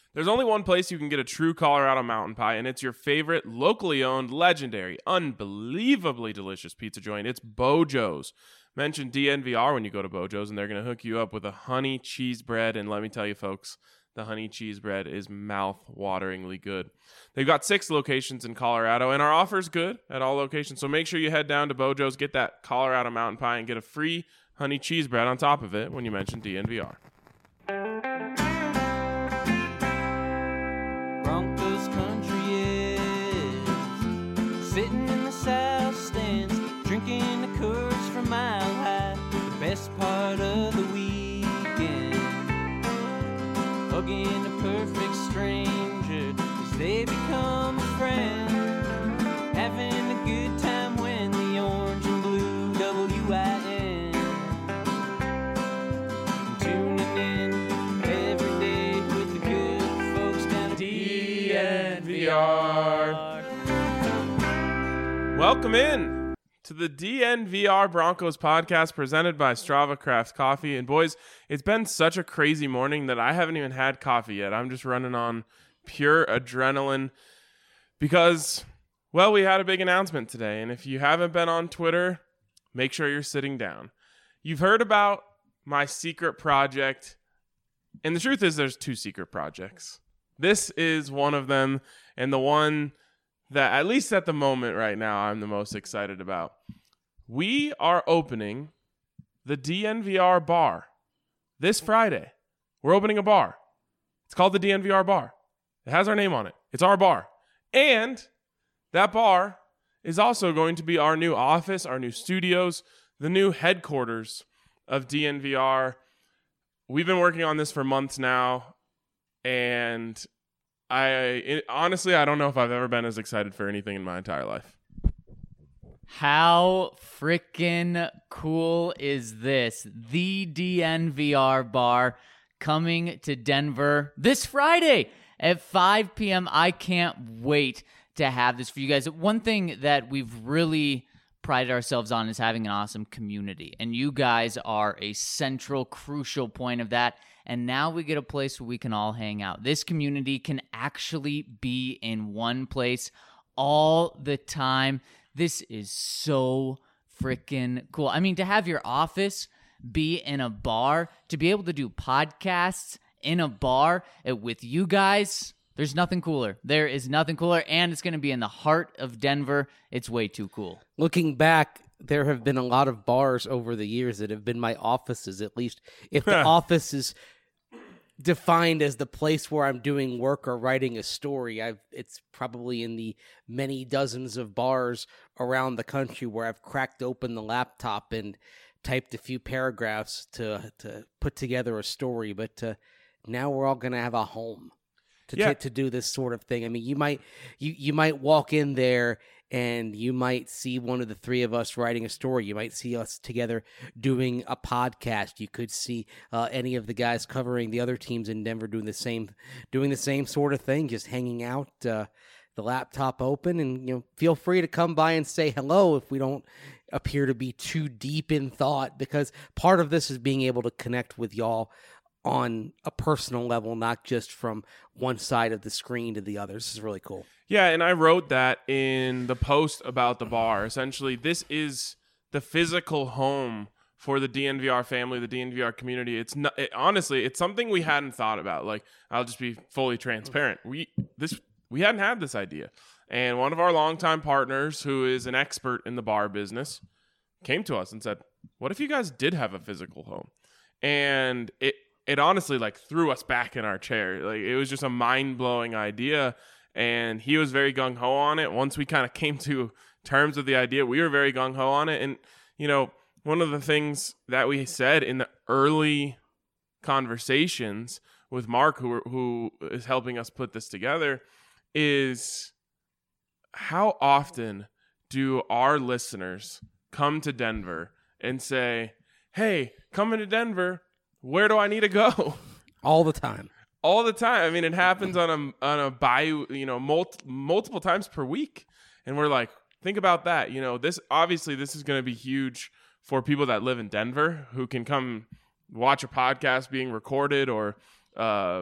There's only one place you can get a true Colorado mountain pie, and it's your favorite locally owned, legendary, unbelievably delicious pizza joint. It's Bojo's. Mention DNVR when you go to Bojo's, and they're going to hook you up with a honey cheese bread. And let me tell you, folks, the honey cheese bread is mouth-wateringly good. They've got 6 locations in Colorado, and our offer's good at all locations. So make sure you head down to Bojo's, get that Colorado mountain pie, and get a free honey cheese bread on top of it when you mention DNVR. Broncos country is sitting in the south stands, drinking the Coors from Mile High. The best part of the weekend, hugging a perfect stranger as they become a friend, having a good time when the orange and blue WIN, tuning in every day with the good folks down at DNVR. Welcome in to the DNVR Broncos podcast presented by Strava Craft Coffee. And boys, it's been such a crazy morning that I haven't even had coffee yet. I'm just running on pure adrenaline because, well, we had a big announcement today. And if you haven't been on Twitter, make sure you're sitting down. You've heard about my secret project. And the truth is there's 2 secret projects. This is one of them, and the one that, at least at the moment right now, I'm the most excited about. We are opening the DNVR bar this Friday. We're opening a bar. It's called the DNVR bar. It has our name on it. It's our bar. And that bar is also going to be our new office, our new studios, the new headquarters of DNVR. We've been working on this for months now, and honestly, I don't know if I've ever been as excited for anything in my entire life. How freaking cool is this? The DNVR bar coming to Denver this Friday at 5 p.m. I can't wait to have this for you guys. One thing that we've really prided ourselves on is having an awesome community, and you guys are a central, crucial point of that. And now we get a place where we can all hang out. This community can actually be in one place all the time. This is so freaking cool. I mean, to have your office be in a bar, to be able to do podcasts in a bar with you guys, there's nothing cooler. There is nothing cooler, and it's going to be in the heart of Denver. It's way too cool. Looking back, there have been a lot of bars over the years that have been my offices, at least. If the office is defined as the place where I'm doing work or writing a story, it's probably in the many dozens of bars around the country where I've cracked open the laptop and typed a few paragraphs to put together a story. But now we're all going to have a home to do this sort of thing. I mean, you might walk in there and you might see one of the 3 of us writing a story. You might see us together doing a podcast. You could see any of the guys covering the other teams in Denver doing the same sort of thing, just hanging out, the laptop open, and feel free to come by and say hello if we don't appear to be too deep in thought, because part of this is being able to connect with y'all on a personal level, not just from one side of the screen to the other. This is really cool. Yeah, and I wrote that in the post about the bar. Essentially, this is the physical home for the DNVR family, the DNVR community. Honestly, it's something we hadn't thought about. Like, I'll just be fully transparent. We hadn't had this idea. And one of our longtime partners, who is an expert in the bar business, came to us and said, what if you guys did have a physical home? And it honestly threw us back in our chair. Like, it was just a mind-blowing idea. And he was very gung-ho on it. Once we kind of came to terms with the idea, we were very gung-ho on it. And, one of the things that we said in the early conversations with Mark, who is helping us put this together, is how often do our listeners come to Denver and say, hey, coming to Denver, where do I need to go? All the time. All the time. I mean, it happens on a multiple times per week. And we're like, think about that. This is going to be huge for people that live in Denver who can come watch a podcast being recorded or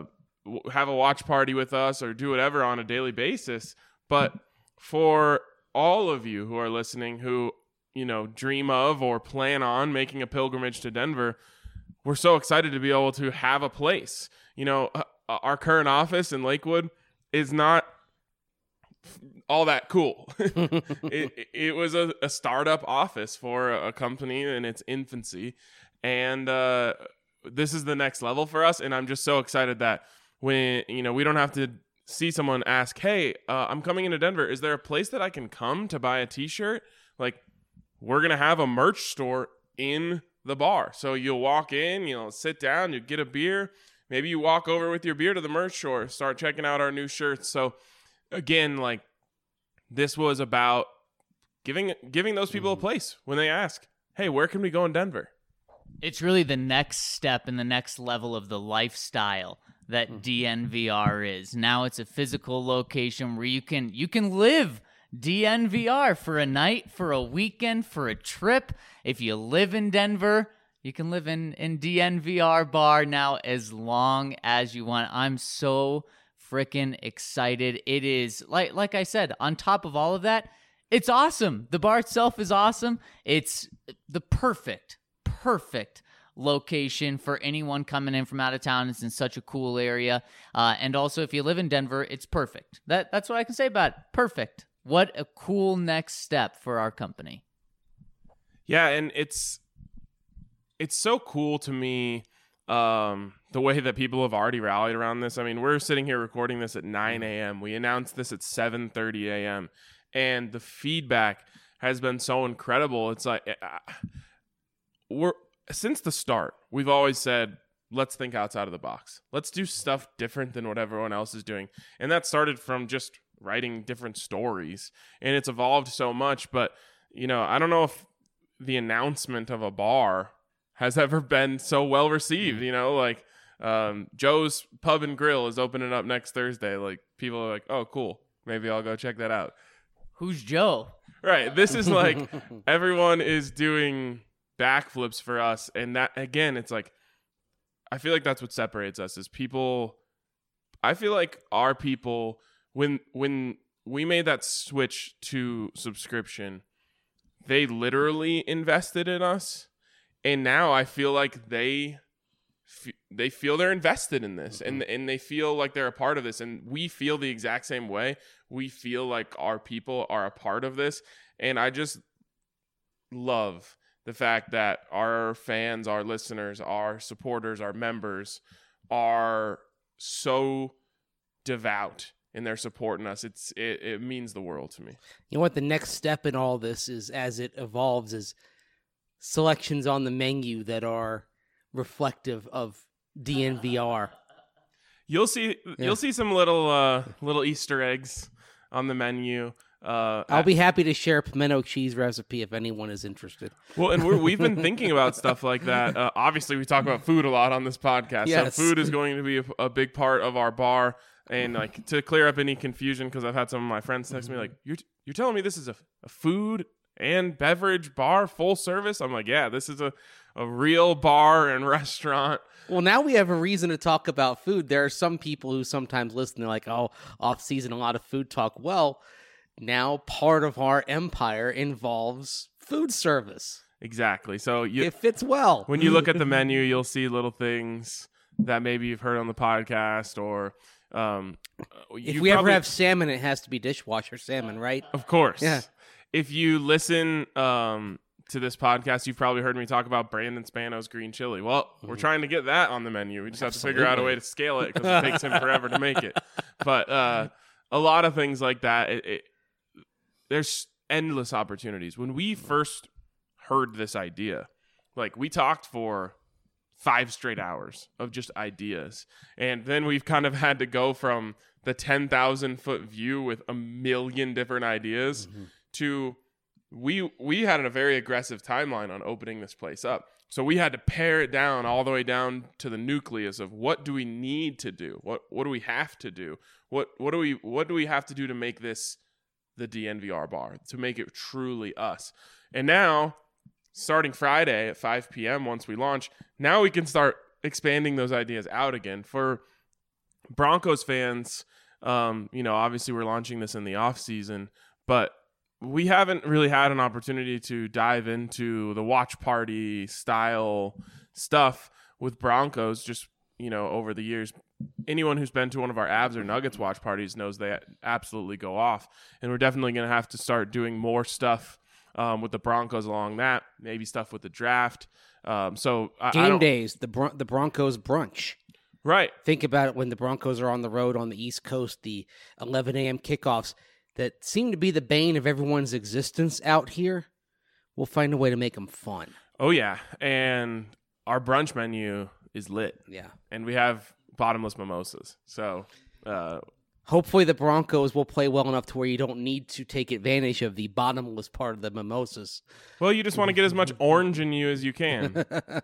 have a watch party with us or do whatever on a daily basis. But for all of you who are listening who, dream of or plan on making a pilgrimage to Denver, we're so excited to be able to have a place. Our current office in Lakewood is not all that cool. It was a startup office for a company in its infancy. And this is the next level for us. And I'm just so excited that when, we don't have to see someone ask, hey, I'm coming into Denver. Is there a place that I can come to buy a t-shirt? Like, we're going to have a merch store in the bar. So you'll walk in, sit down, you get a beer. Maybe you walk over with your beer to the merch store, start checking out our new shirts. So again, like, this was about giving those people a place when they ask, hey, where can we go in Denver? It's really the next step and the next level of the lifestyle that DNVR is. Now it's a physical location where you can live DNVR for a night, for a weekend, for a trip. If you live in Denver, you can live in DNVR bar now as long as you want. I'm so freaking excited. It is, like I said, on top of all of that, it's awesome. The bar itself is awesome. It's the perfect location for anyone coming in from out of town. It's in such a cool area. And also, if you live in Denver, it's perfect. That's what I can say about it. Perfect. What a cool next step for our company. Yeah, and it's so cool to me, the way that people have already rallied around this. I mean, we're sitting here recording this at 9 a.m. We announced this at 7:30 a.m. And the feedback has been so incredible. It's like, since the start, we've always said, let's think outside of the box. Let's do stuff different than what everyone else is doing. And that started from just writing different stories. And it's evolved so much. But, I don't know if the announcement of a bar has ever been so well received. Joe's Pub and Grill is opening up next Thursday. Like, people are like, oh, cool. Maybe I'll go check that out. Who's Joe? Right. This is like everyone is doing backflips for us. And that, again, it's like, I feel like that's what separates us is people. I feel like our people, when we made that switch to subscription, they literally invested in us. And now I feel like they feel they're invested in this, and they feel like they're a part of this, and we feel the exact same way. We feel like our people are a part of this, and I just love the fact that our fans, our listeners, our supporters, our members are so devout in their support in us. It means the world to me. You know what? The next step in all this is, as it evolves, is selections on the menu that are reflective of DNVR. You'll see some little Easter eggs on the menu. I'll be happy to share a pimento cheese recipe if anyone is interested. Well, and we've been thinking about stuff like that. Obviously, we talk about food a lot on this podcast. Yes. So food is going to be a big part of our bar. And like to clear up any confusion, because I've had some of my friends text me like, "You're telling me this is a food and beverage bar full service?" I'm like, yeah, this is a real bar and restaurant. Well, now we have a reason to talk about food. There are some people who sometimes listen, they're like, oh, off season, a lot of food talk. Well, now part of our empire involves food service. Exactly. So it fits well. When you look at the menu, you'll see little things that maybe you've heard on the podcast, or if we ever have salmon, it has to be dishwasher salmon, right? Of course. Yeah. If you listen to this podcast, you've probably heard me talk about Brandon Spano's green chili. Well, we're trying to get that on the menu. We just have to figure out a way to scale it, because it takes him forever to make it. But a lot of things like that, there's endless opportunities. When we first heard this idea, like, we talked for 5 straight hours of just ideas. And then we've kind of had to go from the 10,000-foot view with a million different ideas to we had a very aggressive timeline on opening this place up. So we had to pare it down all the way down to the nucleus of what do we need to do? What do we have to do? What do we have to do to make this the DNVR bar, to make it truly us? And now, starting Friday at 5 p.m. once we launch, now we can start expanding those ideas out again. For Broncos fans, obviously we're launching this in the off season, but we haven't really had an opportunity to dive into the watch party style stuff with Broncos just, over the years. Anyone who's been to one of our Avs or Nuggets watch parties knows they absolutely go off. And we're definitely going to have to start doing more stuff with the Broncos along that, maybe stuff with the draft. Game days, the Broncos brunch. Right. Think about it when the Broncos are on the road on the East Coast, the 11 a.m. kickoffs that seem to be the bane of everyone's existence out here. We'll find a way to make them fun. Oh, yeah. And our brunch menu is lit. Yeah. And we have bottomless mimosas. So hopefully the Broncos will play well enough to where you don't need to take advantage of the bottomless part of the mimosas. Well, you just want to get as much orange in you as you can.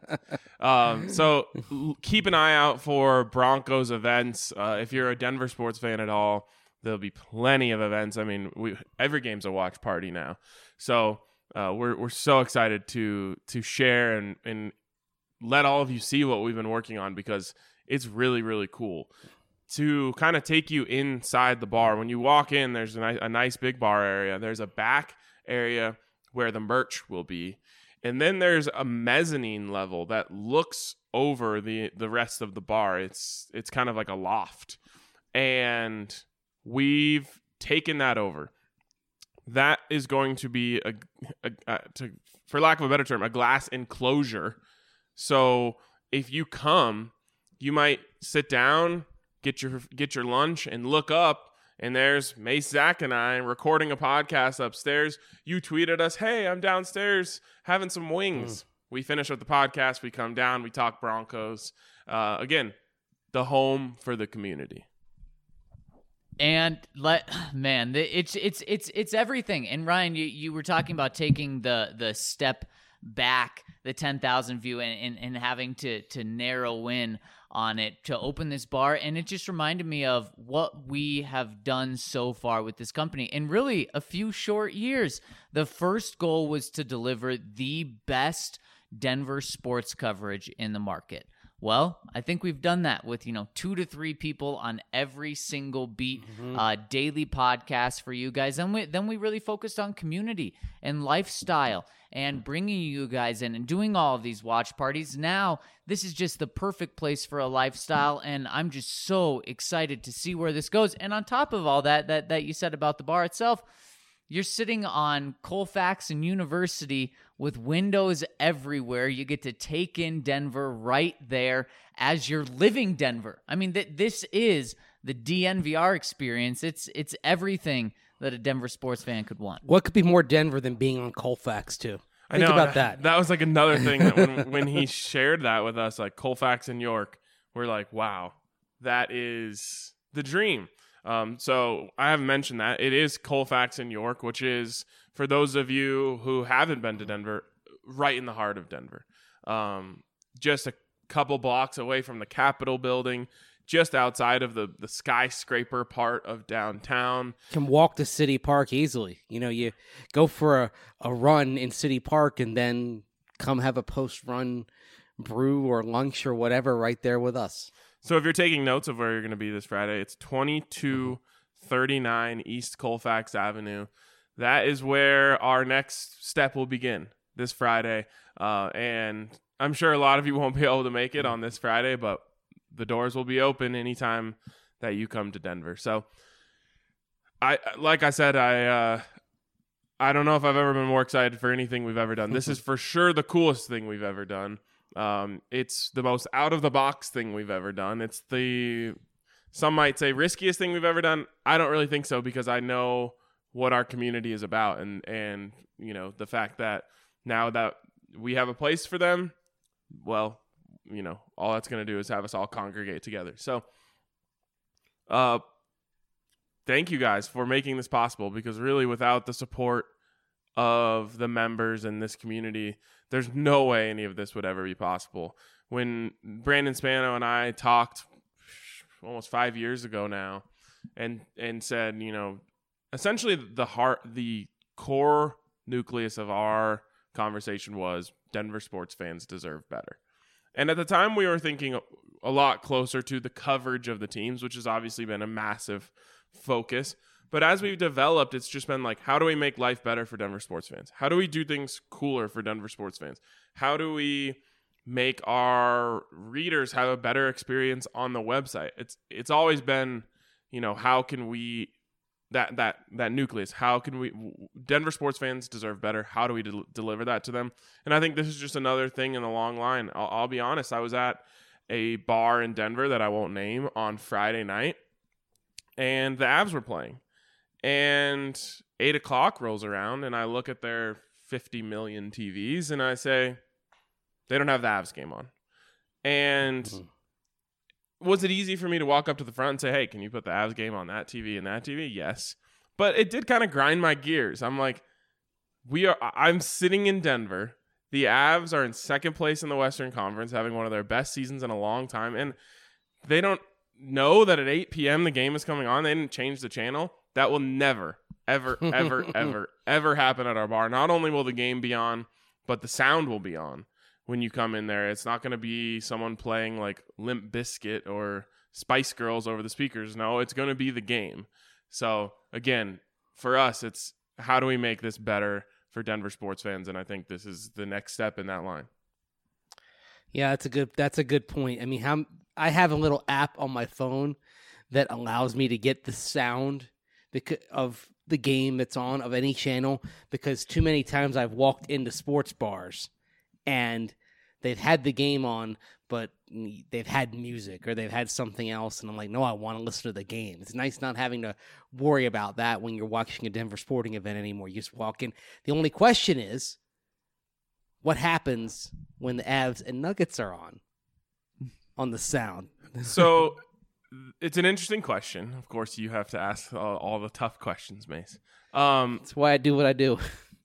So keep an eye out for Broncos events. If you're a Denver sports fan at all, there'll be plenty of events. I mean, every game's a watch party now. So we're so excited to share and let all of you see what we've been working on, because it's really, really cool. To kind of take you inside the bar, when you walk in, there's a nice big bar area. There's a back area where the merch will be. And then there's a mezzanine level that looks over the rest of the bar. It's kind of like a loft. And we've taken that over. That is going to be for lack of a better term, a glass enclosure. So if you come, you might sit down, get your lunch, and look up, and there's Mace, Zach, and I recording a podcast upstairs. You tweeted us, "Hey, I'm downstairs having some wings." We finish with the podcast. We come down. We talk Broncos. Again, the home for the community. And it's everything. And Ryan, you were talking about taking the step back, the 10,000 view, and having to narrow in on it to open this bar. And it just reminded me of what we have done so far with this company in really a few short years. The first goal was to deliver the best Denver sports coverage in the market. Well, I think we've done that with, 2 to 3 people on every single beat, daily podcast for you guys. And then we really focused on community and lifestyle and bringing you guys in and doing all of these watch parties. Now, this is just the perfect place for a lifestyle, and I'm just so excited to see where this goes. And on top of all that you said about the bar itself, you're sitting on Colfax and University with windows everywhere. You get to take in Denver right there as you're living Denver. I mean, this is the DNVR experience. It's everything that a Denver sports fan could want. What could be more Denver than being on Colfax, too? Think about that. That was like another thing that when he shared that with us, like Colfax and York, we're like, wow, that is the dream. So I haven't mentioned that. It is Colfax and York, which is, for those of you who haven't been to Denver, right in the heart of Denver. Just a couple blocks away from the Capitol building, just outside of the skyscraper part of downtown. Can walk to City Park easily. You go for a run in City Park and then come have a post-run brew or lunch or whatever right there with us. So if you're taking notes of where you're going to be this Friday, it's 2239 East Colfax Avenue. That is where our next step will begin this Friday. And I'm sure a lot of you won't be able to make it on this Friday, but the doors will be open anytime that you come to Denver. So I don't know if I've ever been more excited for anything we've ever done. This is for sure the coolest thing we've ever done. It's the most out-of-the-box thing we've ever done. It's some might say riskiest thing we've ever done. I don't really think so, because I know what our community is about, and the fact that now that we have a place for them, well, all that's going to do is have us all congregate together. So thank you guys for making this possible, because really without the support of the members in this community, there's no way any of this would ever be possible. When Brandon Spano and I talked almost 5 years ago now and said, essentially the core nucleus of our conversation was Denver sports fans deserve better. And at the time we were thinking a lot closer to the coverage of the teams, which has obviously been a massive focus. But as we've developed, it's just been like, how do we make life better for Denver sports fans? How do we do things cooler for Denver sports fans? How do we make our readers have a better experience on the website? It's always been, how can we that nucleus? How can we? Denver sports fans deserve better. How do we deliver that to them? And I think this is just another thing in the long line. I'll be honest. I was at a bar in Denver that I won't name on Friday night, and the Avs were playing. And 8 o'clock rolls around, and I look at their 50 million TVs, and I say, they don't have the Avs game on. And was it easy for me to walk up to the front and say, hey, can you put the Avs game on that TV and that TV? Yes. But it did kind of grind my gears. I'm like, I'm sitting in Denver. The Avs are in second place in the Western Conference, having one of their best seasons in a long time. And they don't know that at 8 p.m. the game is coming on. They didn't change the channel. That will never, ever, ever, ever, ever happen at our bar. Not only will the game be on, but the sound will be on when you come in there. It's not going to be someone playing like Limp Bizkit or Spice Girls over the speakers. No, it's going to be the game. So, again, for us, it's how do we make this better for Denver sports fans? And I think this is the next step in that line. Yeah, that's a good point. I mean, I have a little app on my phone that allows me to get the sound of the game that's on of any channel, because too many times I've walked into sports bars and they've had the game on, but they've had music or they've had something else, and I'm like, no, I want to listen to the game. It's nice not having to worry about that when you're watching a Denver sporting event anymore. You just walk in. The only question is, what happens when the Avs and Nuggets are on the sound? So it's an interesting question. Of course, you have to ask all the tough questions, Mace. That's why I do what I do.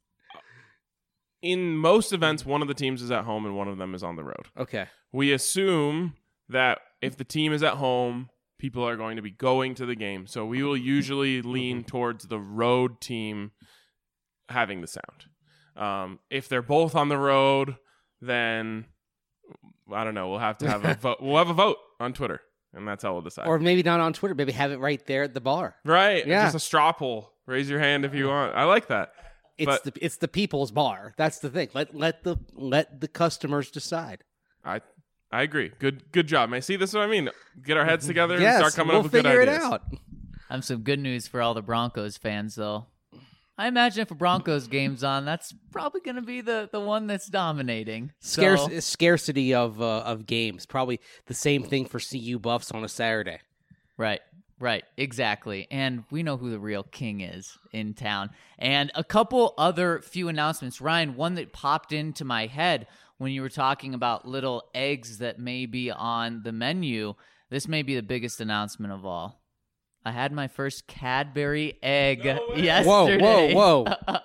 In most events, one of the teams is at home and one of them is on the road. Okay. We assume that if the team is at home, people are going to be going to the game. So we will usually lean towards the road team having the sound. If they're both on the road, then I don't know. We'll have to have a vote. We'll have a vote on Twitter. And that's how we'll decide. Or maybe not on Twitter. Maybe have it right there at the bar. Right. Yeah. Just a straw poll. Raise your hand if you want. I like that. It's the people's bar. That's the thing. Let the customers decide. I agree. Good job, man. See, this is what I mean. Get our heads together and Yes, start coming we'll up with good figure ideas. it out. I have some good news for all the Broncos fans, though. I imagine if a Broncos game's on, that's probably going to be the one that's dominating. Scarcity of games. Probably the same thing for CU Buffs on a Saturday. Right, exactly. And we know who the real king is in town. And a couple other few announcements. Ryan, one that popped into my head when you were talking about little eggs that may be on the menu. This may be the biggest announcement of all. I had my first Cadbury egg yesterday. Whoa.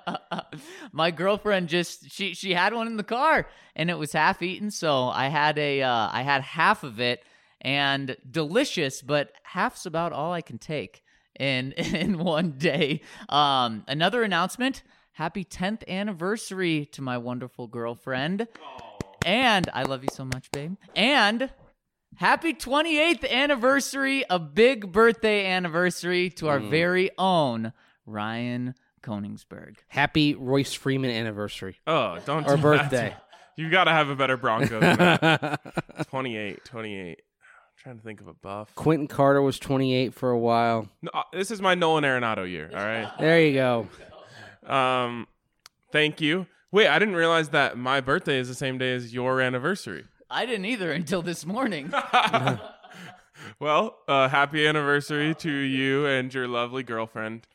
My girlfriend she had one in the car and it was half eaten, so I had half of it, and delicious, but half's about all I can take in one day. Another announcement, happy 10th anniversary to my wonderful girlfriend. And I love you so much, babe. And happy 28th anniversary, a big birthday anniversary to our very own Ryan Koningsberg. Happy Royce Freeman anniversary. Oh, don't Or do birthday. That. You got to have a better Bronco than that. 28. I'm trying to think of a buff. Quentin Carter was 28 for a while. No, this is my Nolan Arenado year, all right? There you go. Thank you. Wait, I didn't realize that my birthday is the same day as your anniversary. I didn't either until this morning. Well, happy anniversary to you and your lovely girlfriend.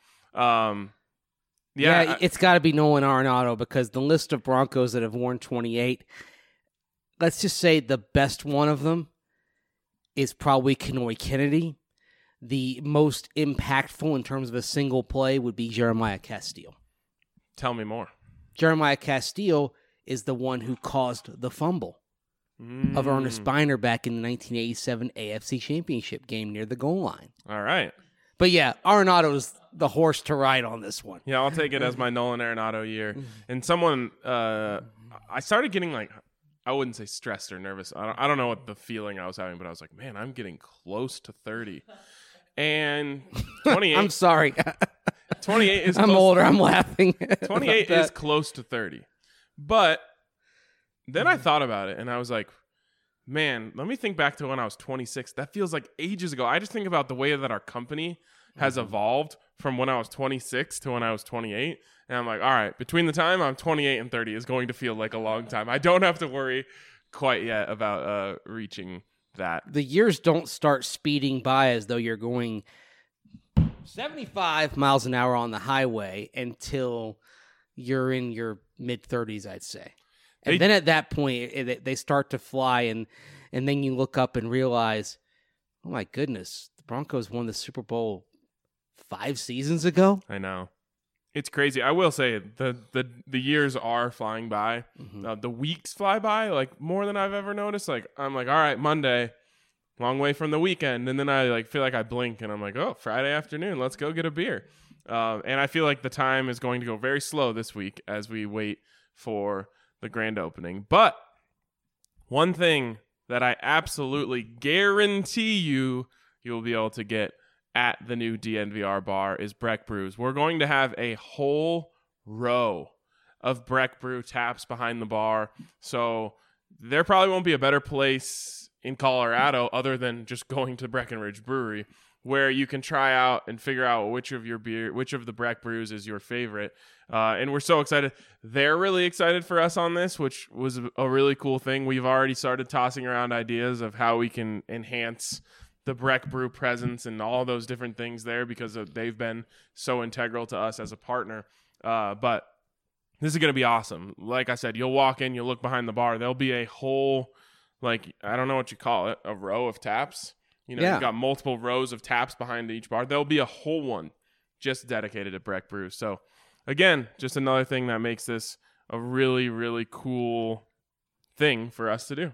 Yeah, it's got to be Nolan Arenado, because the list of Broncos that have worn 28, let's just say the best one of them is probably Kenoy Kennedy. The most impactful in terms of a single play would be Jeremiah Castile. Tell me more. Jeremiah Castile is the one who caused the fumble of Ernest Biner back in the 1987 AFC Championship game near the goal line. All right. But yeah, Arenado's the horse to ride on this one. Yeah, I'll take it as my Nolan Arenado year. And someone, I started getting like I wouldn't say stressed or nervous. I don't know what the feeling I was having, but I was like, man, I'm getting close to 30. And 28. I'm sorry. 28 is I'm close. older. I'm laughing. 28 is close to 30. But then I thought about it and I was like, man, let me think back to when I was 26. That feels like ages ago. I just think about the way that our company has evolved from when I was 26 to when I was 28. And I'm like, all right, between the time I'm 28 and 30 is going to feel like a long time. I don't have to worry quite yet about reaching that. The years don't start speeding by as though you're going 75 miles an hour on the highway until you're in your mid-30s, I'd say. And then at that point, they start to fly, and then you look up and realize, oh my goodness, the Broncos won the Super Bowl 5 seasons ago? I know. It's crazy. I will say the years are flying by. The weeks fly by like more than I've ever noticed. Like I'm like, all right, Monday, long way from the weekend, and then I like feel like I blink and I'm like, oh, Friday afternoon, let's go get a beer. And I feel like the time is going to go very slow this week as we wait for the grand opening. But one thing that I absolutely guarantee you'll be able to get at the new DNVR bar is Breck Brews. We're going to have a whole row of Breck Brew taps behind the bar. So there probably won't be a better place in Colorado other than just going to Breckenridge Brewery where you can try out and figure out which of the Breck Brews is your favorite. And we're so excited. They're really excited for us on this, which was a really cool thing. We've already started tossing around ideas of how we can enhance the Breck Brew presence and all those different things there because they've been so integral to us as a partner. But this is going to be awesome. Like I said, you'll walk in, you'll look behind the bar. There'll be a whole, like, I don't know what you call it, a row of taps. You've got multiple rows of taps behind each bar. There'll be a whole one just dedicated to Breck Brew. So, again, just another thing that makes this a really, really cool thing for us to do.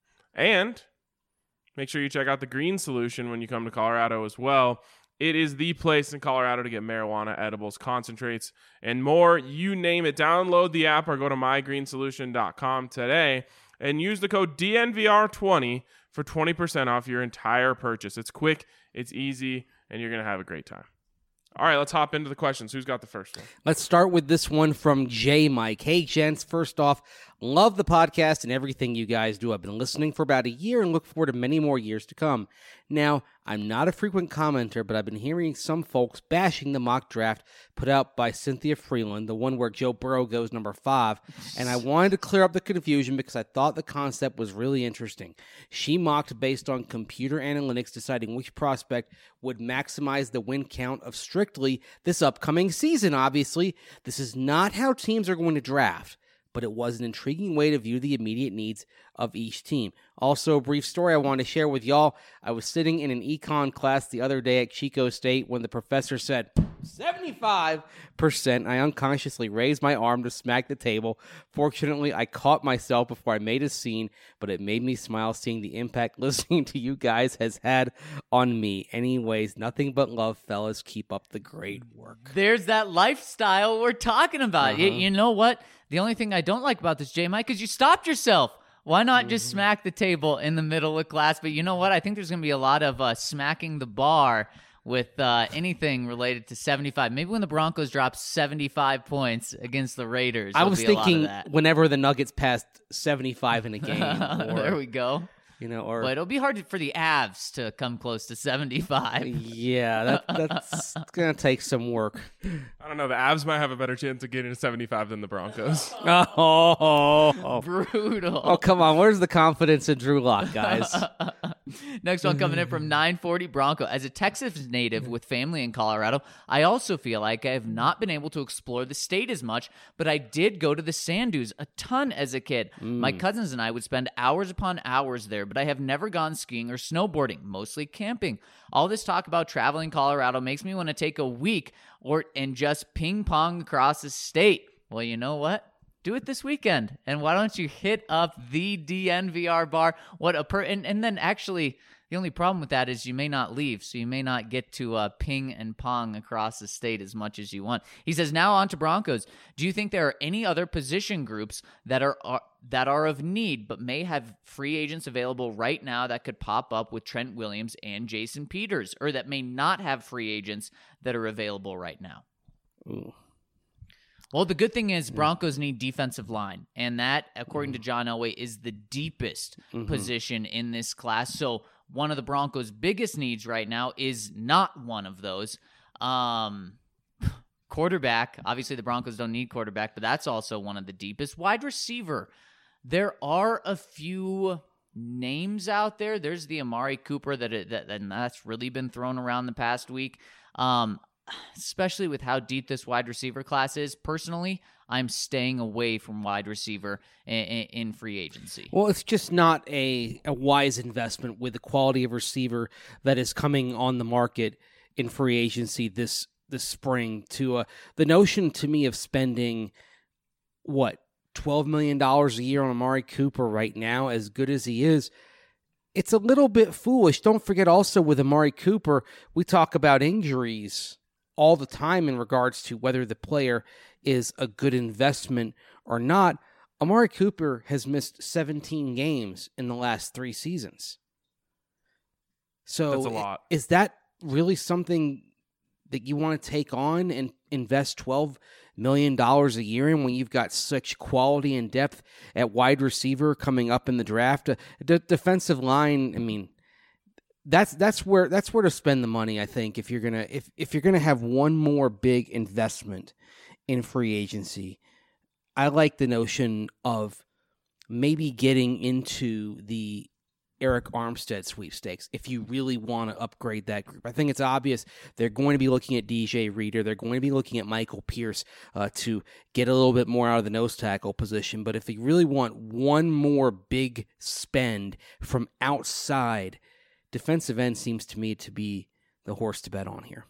And make sure you check out the Green Solution when you come to Colorado as well. It is the place in Colorado to get marijuana, edibles, concentrates, and more. You name it. Download the app or go to mygreensolution.com today and use the code DNVR20 for 20% off your entire purchase. It's quick, it's easy, and you're going to have a great time. All right, let's hop into the questions. Who's got the first one? Let's start with this one from J. Mike. Hey, gents. First off, love the podcast and everything you guys do. I've been listening for about a year and look forward to many more years to come. Now, I'm not a frequent commenter, but I've been hearing some folks bashing the mock draft put out by Cynthia Freeland, the one where Joe Burrow goes number 5, and I wanted to clear up the confusion because I thought the concept was really interesting. She mocked based on computer analytics deciding which prospect would maximize the win count of strictly this upcoming season, obviously. This is not how teams are going to draft, but it was an intriguing way to view the immediate needs of each team. Also, a brief story I want to share with y'all. I was sitting in an econ class the other day at Chico State when the professor said 75%. I unconsciously raised my arm to smack the table. Fortunately, I caught myself before I made a scene, but it made me smile seeing the impact listening to you guys has had on me. Anyways, nothing but love, fellas. Keep up the great work. There's that lifestyle we're talking about. You know what? The only thing I don't like about this, J. Mike, is you stopped yourself. Why not just smack the table in the middle of class? But you know what? I think there's going to be a lot of smacking the bar with anything related to 75. Maybe when the Broncos drop 75 points against the Raiders. I was thinking whenever the Nuggets passed 75 in a game. There we go. But it'll be hard for the Avs to come close to 75. Yeah, that's going to take some work. I don't know. The Avs might have a better chance of getting to 75 than the Broncos. Brutal. Oh, come on. Where's the confidence in Drew Lock, guys? Next one coming in from 940 Bronco. As a Texas native with family in Colorado, I also feel like I have not been able to explore the state as much, but I did go to the sand dunes a ton as a kid. My cousins and I would spend hours upon hours there, but I have never gone skiing or snowboarding, mostly camping. All this talk about traveling Colorado makes me want to take a week and just ping pong across the state. Well, you know what? Do it this weekend. And why don't you hit up the DNVR bar? And then actually, The only problem with that is you may not leave, so you may not get to ping and pong across the state as much as you want. He says, now on to Broncos. Do you think there are any other position groups that are of need but may have free agents available right now that could pop up with Trent Williams and Jason Peters, or that may not have free agents that are available right now? Ooh. Well, the good thing is Broncos need defensive line, and that, according to John Elway, is the deepest position in this class. So one of the Broncos' biggest needs right now is not one of those. Quarterback, obviously the Broncos don't need quarterback, but that's also one of the deepest. Wide receiver, there are a few names out there. There's the Amari Cooper that's really been thrown around the past week. Especially with how deep this wide receiver class is. Personally, I'm staying away from wide receiver in free agency. Well, it's just not a wise investment with the quality of receiver that is coming on the market in free agency this spring. To the notion to me of spending $12 million a year on Amari Cooper right now, as good as he is, it's a little bit foolish. Don't forget also with Amari Cooper, we talk about injuries all the time in regards to whether the player is a good investment or not. Amari Cooper has missed 17 games in the last 3 seasons. So that's a lot. Is that really something that you want to take on and invest $12 million a year in when you've got such quality and depth at wide receiver coming up in the draft? The defensive line, I mean, that's where to spend the money, I think, if you're gonna have one more big investment in free agency. I like the notion of maybe getting into the Eric Armstead sweepstakes if you really want to upgrade that group. I think it's obvious they're going to be looking at DJ Reader. They're going to be looking at Michael Pierce to get a little bit more out of the nose tackle position. But if you really want one more big spend from outside, defensive end seems to me to be the horse to bet on here.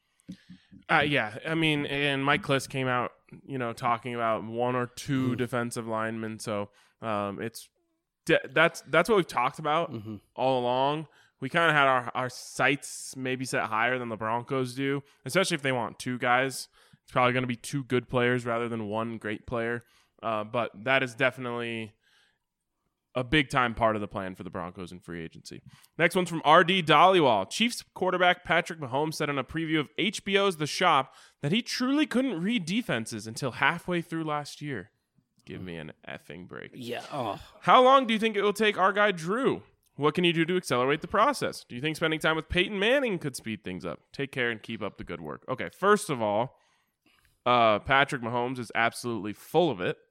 Yeah, I mean, and Mike Klis came out, talking about 1 or 2 defensive linemen. So that's what we've talked about all along. We kind of had our sights maybe set higher than the Broncos do, especially if they want 2 guys. It's probably going to be 2 good players rather than 1 great player. But that is definitely a big-time part of the plan for the Broncos in free agency. Next one's from R.D. Dhaliwal. Chiefs quarterback Patrick Mahomes said in a preview of HBO's The Shop that he truly couldn't read defenses until halfway through last year. Give me an effing break. Yeah. Oh. How long do you think it will take our guy Drew? What can you do to accelerate the process? Do you think spending time with Peyton Manning could speed things up? Take care and keep up the good work. Okay, first of all, Patrick Mahomes is absolutely full of it.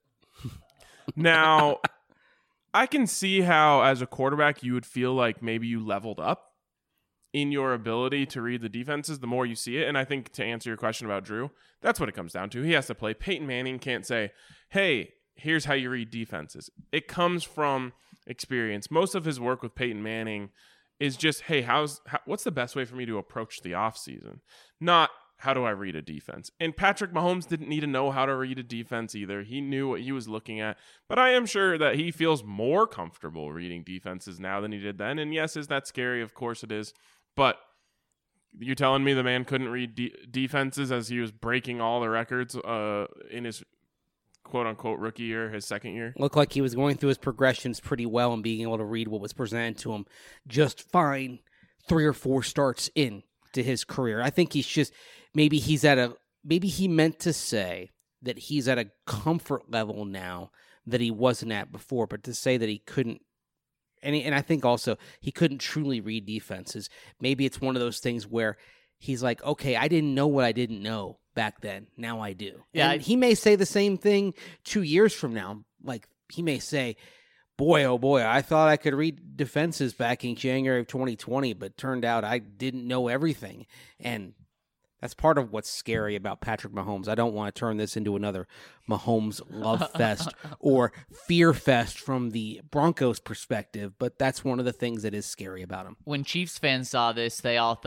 Now, I can see how, as a quarterback, you would feel like maybe you leveled up in your ability to read the defenses the more you see it. And I think to answer your question about Drew, that's what it comes down to. He has to play. Peyton Manning can't say, hey, here's how you read defenses. It comes from experience. Most of his work with Peyton Manning is just, hey, what's the best way for me to approach the offseason? Not, how do I read a defense? And Patrick Mahomes didn't need to know how to read a defense either. He knew what he was looking at. But I am sure that he feels more comfortable reading defenses now than he did then. And yes, is that scary? Of course it is. But you're telling me the man couldn't read defenses as he was breaking all the records in his quote-unquote rookie year, his second year? Looked like he was going through his progressions pretty well and being able to read what was presented to him just fine 3 or 4 starts in to his career. I think he's just, maybe he meant to say that he's at a comfort level now that he wasn't at before, but to say that he couldn't, and I think also he couldn't truly read defenses. Maybe it's one of those things where he's like, okay, I didn't know what I didn't know back then. Now I do. Yeah, and he may say the same thing 2 years from now. Like, he may say, boy, oh boy, I thought I could read defenses back in January of 2020, but turned out I didn't know everything. And that's part of what's scary about Patrick Mahomes. I don't want to turn this into another Mahomes love fest or fear fest from the Broncos perspective, but that's one of the things that is scary about him. When Chiefs fans saw this, they all thought,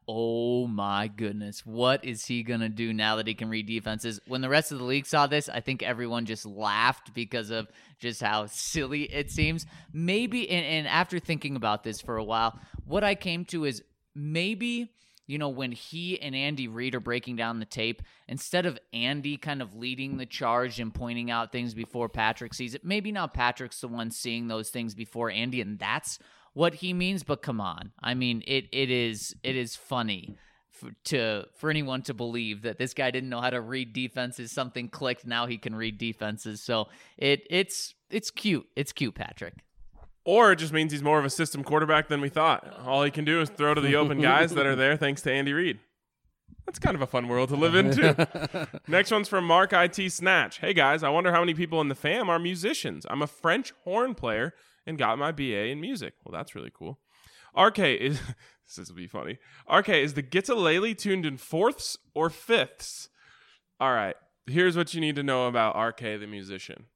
oh my goodness, what is he going to do now that he can read defenses? When the rest of the league saw this, I think everyone just laughed because of just how silly it seems. Maybe, and after thinking about this for a while, what I came to is maybe, when he and Andy Reid are breaking down the tape, instead of Andy kind of leading the charge and pointing out things before Patrick sees it, maybe now Patrick's the one seeing those things before Andy, and that's what he means. But come on, I mean, it is funny for anyone to believe that this guy didn't know how to read defenses. Something clicked. Now he can read defenses. So it's cute. It's cute, Patrick. Or it just means he's more of a system quarterback than we thought. All he can do is throw to the open guys that are there thanks to Andy Reid. That's kind of a fun world to live in, too. Next one's from Mark IT Snatch. Hey, guys, I wonder how many people in the fam are musicians. I'm a French horn player and got my BA in music. Well, that's really cool. RK is... this will be funny. RK, is the guitarlele tuned in fourths or fifths? All right. Here's what you need to know about RK the musician.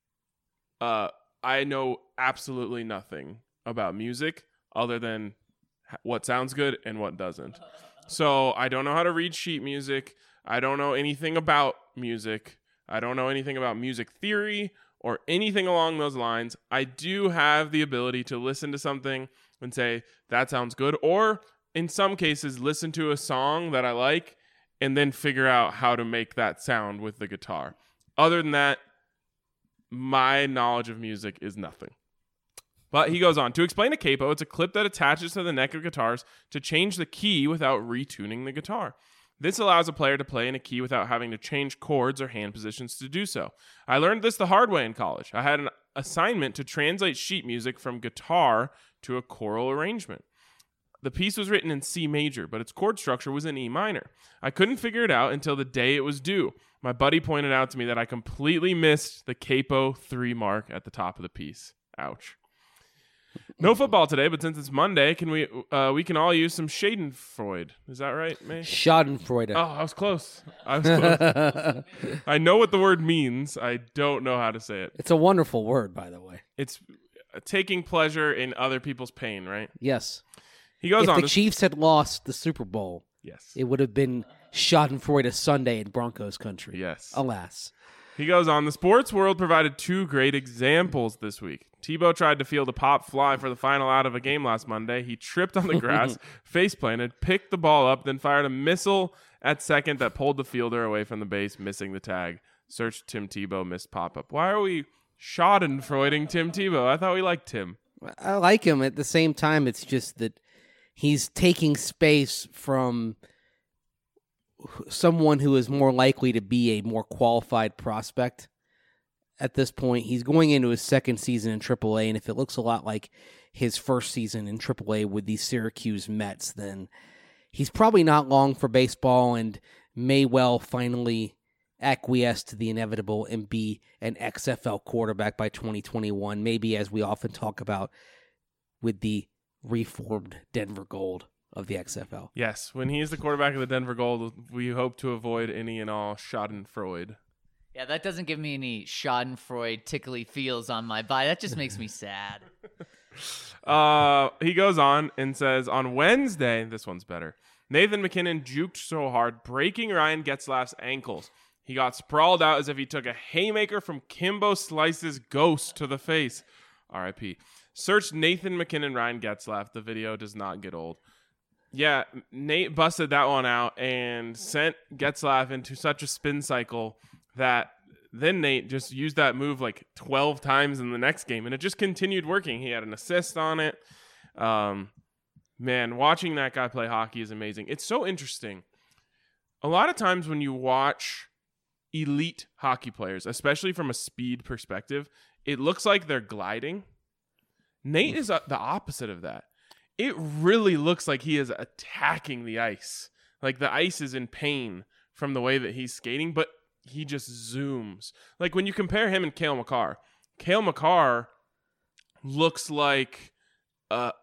I know absolutely nothing about music other than what sounds good and what doesn't. So I don't know how to read sheet music. I don't know anything about music. I don't know anything about music theory or anything along those lines. I do have the ability to listen to something and say, that sounds good. Or in some cases, listen to a song that I like and then figure out how to make that sound with the guitar. Other than that, my knowledge of music is nothing. But he goes on. To explain a capo, it's a clip that attaches to the neck of guitars to change the key without retuning the guitar. This allows a player to play in a key without having to change chords or hand positions to do so. I learned this the hard way in college. I had an assignment to translate sheet music from guitar to a choral arrangement. The piece was written in C major, but its chord structure was in E minor. I couldn't figure it out until the day it was due. My buddy pointed out to me that I completely missed the capo 3 mark at the top of the piece. Ouch. No football today, but since it's Monday, we can all use some Schadenfreude. Is that right, May? Schadenfreude. Oh, I was close. I know what the word means. I don't know how to say it. It's a wonderful word, by the way. It's taking pleasure in other people's pain, right? Yes. He goes if on. The Chiefs had lost the Super Bowl, yes, it would have been Schadenfreude Sunday in Broncos country. Yes. Alas. He goes on. The sports world provided 2 great examples this week. Tebow tried to field a pop fly for the final out of a game last Monday. He tripped on the grass, face-planted, picked the ball up, then fired a missile at second that pulled the fielder away from the base, missing the tag. Search Tim Tebow missed pop-up. Why are we Schadenfreuding Tim Tebow? I thought we liked Tim. I like him. At the same time, it's just that he's taking space from someone who is more likely to be a more qualified prospect. At this point, he's going into his second season in AAA, and if it looks a lot like his first season in AAA with the Syracuse Mets, then he's probably not long for baseball and may well finally acquiesce to the inevitable and be an XFL quarterback by 2021, maybe as we often talk about with the reformed Denver Gold of the XFL. Yes, when he is the quarterback of the Denver Gold, we hope to avoid any and all Schadenfreude. Yeah, that doesn't give me any Schadenfreude tickly feels on my body. That just makes me sad. He goes on and says, on Wednesday, this one's better, Nathan McKinnon juked so hard, breaking Ryan Getzlaff's ankles. He got sprawled out as if he took a haymaker from Kimbo Slice's ghost to the face. R.I.P. Search Nathan McKinnon, Ryan Getzlaff. The video does not get old. Yeah, Nate busted that one out and sent Getzlaff into such a spin cycle that then Nate just used that move like 12 times in the next game, and it just continued working. He had an assist on it. Man, watching that guy play hockey is amazing. It's so interesting. A lot of times when you watch elite hockey players, especially from a speed perspective, it looks like they're gliding. Nate is the opposite of that. It really looks like he is attacking the ice. Like the ice is in pain from the way that he's skating, but he just zooms. Like when you compare him and Cale Makar looks like an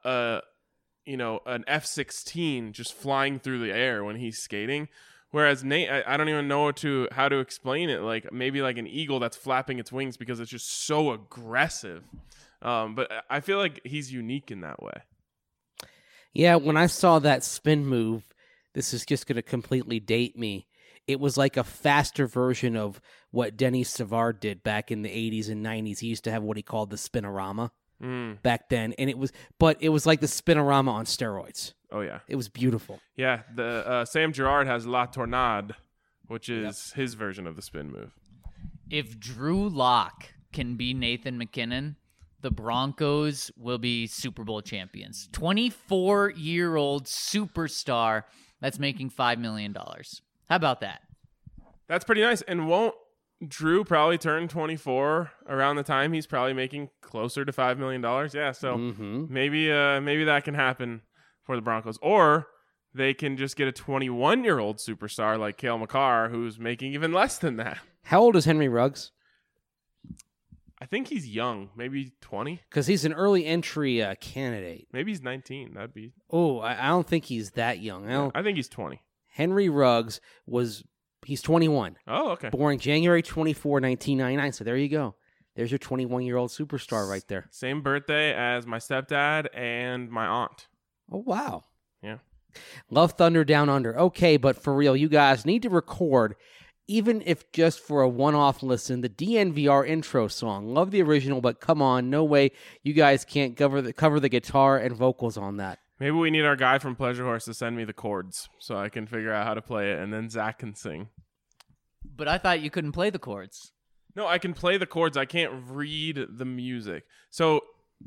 F-16 just flying through the air when he's skating. Whereas Nate, I don't even know how to explain it. Like maybe like an eagle that's flapping its wings because it's just so aggressive. But I feel like he's unique in that way. Yeah, when I saw that spin move, this is just going to completely date me. It was like a faster version of what Denis Savard did back in the 80s and 90s. He used to have what he called the Spinorama back then, and it was like the Spinorama on steroids. Oh yeah, It was beautiful. yeah. The Sam Girard has La Tornade, which is his version of the spin move. If Drew Lock can be Nathan McKinnon, the Broncos will be Super Bowl champions. 24-year-old superstar that's making $5 million. How about that? That's pretty nice. And won't Drew probably turn 24 around the time he's probably making closer to $5 million? Yeah, so maybe that can happen for the Broncos. Or they can just get a 21-year-old superstar like Cale Makar who's making even less than that. How old is Henry Ruggs? I think he's young, maybe 20. Because he's an early entry candidate. Maybe he's 19. That'd be. Oh, I don't think he's that young. I think he's 20. Henry Ruggs he's 21. Oh, okay. Born January 24, 1999. So there you go. There's your 21-year-old superstar right there. Same birthday as my stepdad and my aunt. Oh, wow. Yeah. Love Thunder Down Under. Okay, but for real, you guys need to record, even if just for a one-off listen, the DNVR intro song. Love the original, but come on, no way you guys can't cover the guitar and vocals on that. Maybe we need our guy from Pleasure Horse to send me the chords so I can figure out how to play it, and then Zach can sing. But I thought you couldn't play the chords. No, I can play the chords. I can't read the music. So,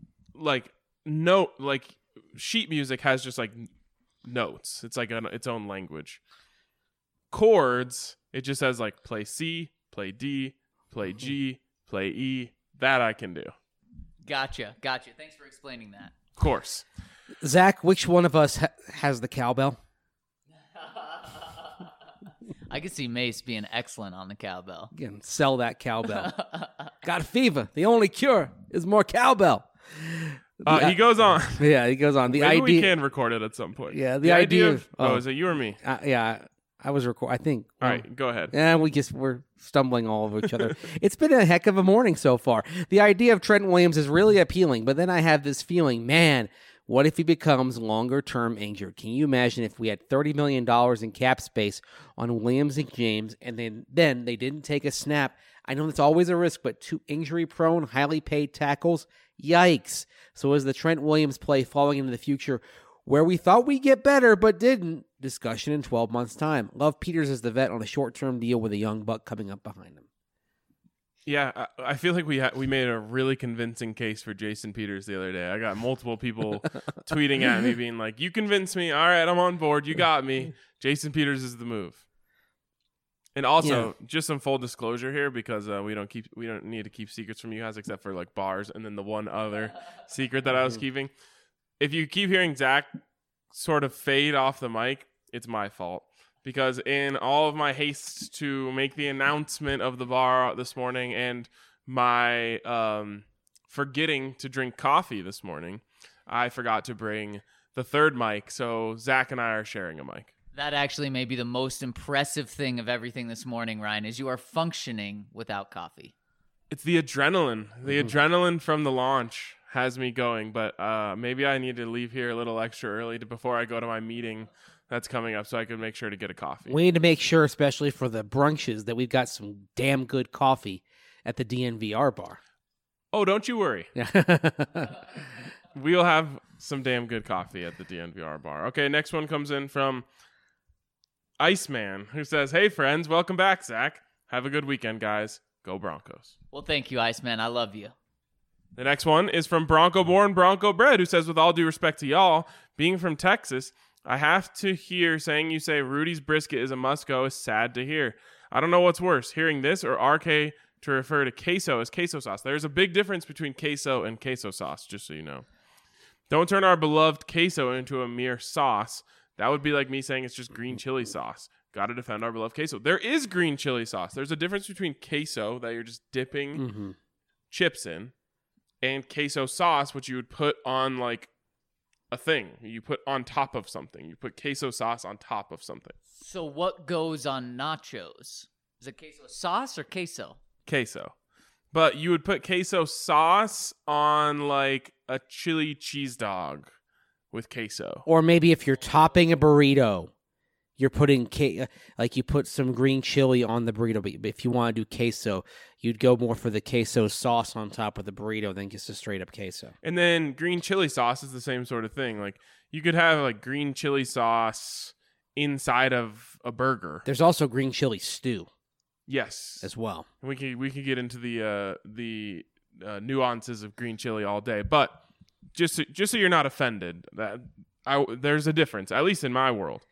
sheet music has just like notes. It's like its own language. Chords, it just says like play C, play D, play G, play E. That I can do. Gotcha. Thanks for explaining that. Of course. Zach, which one of us has the cowbell? I could see Mace being excellent on the cowbell. Again, sell that cowbell. Got a fever. The only cure is more cowbell. He goes on. Yeah, he goes on. Maybe we can record it at some point. Yeah, the idea of... is it you or me? Yeah, I was recording. I think. All right, go ahead. Yeah, we're stumbling all over each other. It's been a heck of a morning so far. The idea of Trent Williams is really appealing, but then I have this feeling, man, what if he becomes longer-term injured? Can you imagine if we had $30 million in cap space on Williams and James, and then they didn't take a snap? I know that's always a risk, but two injury-prone, highly paid tackles, yikes. So is the Trent Williams play falling into the future where we thought we'd get better but didn't? Discussion in 12 months' time. Love Peters as the vet on a short-term deal with a young buck coming up behind him. Yeah, I feel like we made a really convincing case for Jason Peters the other day. I got multiple people tweeting at me being like, you convinced me. All right, I'm on board. You got me. Jason Peters is the move. And also, just some full disclosure here, because we don't need to keep secrets from you guys except for like bars and then the one other secret that I was keeping. If you keep hearing Zach sort of fade off the mic, it's my fault. Because in all of my haste to make the announcement of the bar this morning and my forgetting to drink coffee this morning, I forgot to bring the third mic. So Zach and I are sharing a mic. That actually may be the most impressive thing of everything this morning, Ryan, is you are functioning without coffee. It's the adrenaline. The adrenaline from the launch has me going. But maybe I need to leave here a little extra early before I go to my meeting that's coming up so I can make sure to get a coffee. We need to make sure, especially for the brunches, that we've got some damn good coffee at the DNVR bar. Oh, don't you worry. We'll have some damn good coffee at the DNVR bar. Okay, next one comes in from Iceman, who says, hey, friends, welcome back, Zach. Have a good weekend, guys. Go Broncos. Well, thank you, Iceman. I love you. The next one is from Bronco-born, Bronco-bred, who says, with all due respect to y'all, being from Texas, I have to hear saying you say Rudy's brisket is a must-go is sad to hear. I don't know what's worse, hearing this or RK to refer to queso as queso sauce. There's a big difference between queso and queso sauce, just so you know. Don't turn our beloved queso into a mere sauce. That would be like me saying it's just green chili sauce. Got to defend our beloved queso. There is green chili sauce. There's a difference between queso that you're just dipping chips in and queso sauce, which you would put on like a thing. You put on top of something. You put queso sauce on top of something. So what goes on nachos? Is it queso sauce or queso? Queso. But you would put queso sauce on like a chili cheese dog with queso. Or maybe if you're topping a burrito, you're putting like you put some green chili on the burrito. But if you want to do queso, you'd go more for the queso sauce on top of the burrito than just a straight up queso. And then green chili sauce is the same sort of thing. Like you could have like green chili sauce inside of a burger. There's also green chili stew Yes, as well. we could get into the nuances of green chili all day, but just so you're not offended, there's a difference, at least in my world.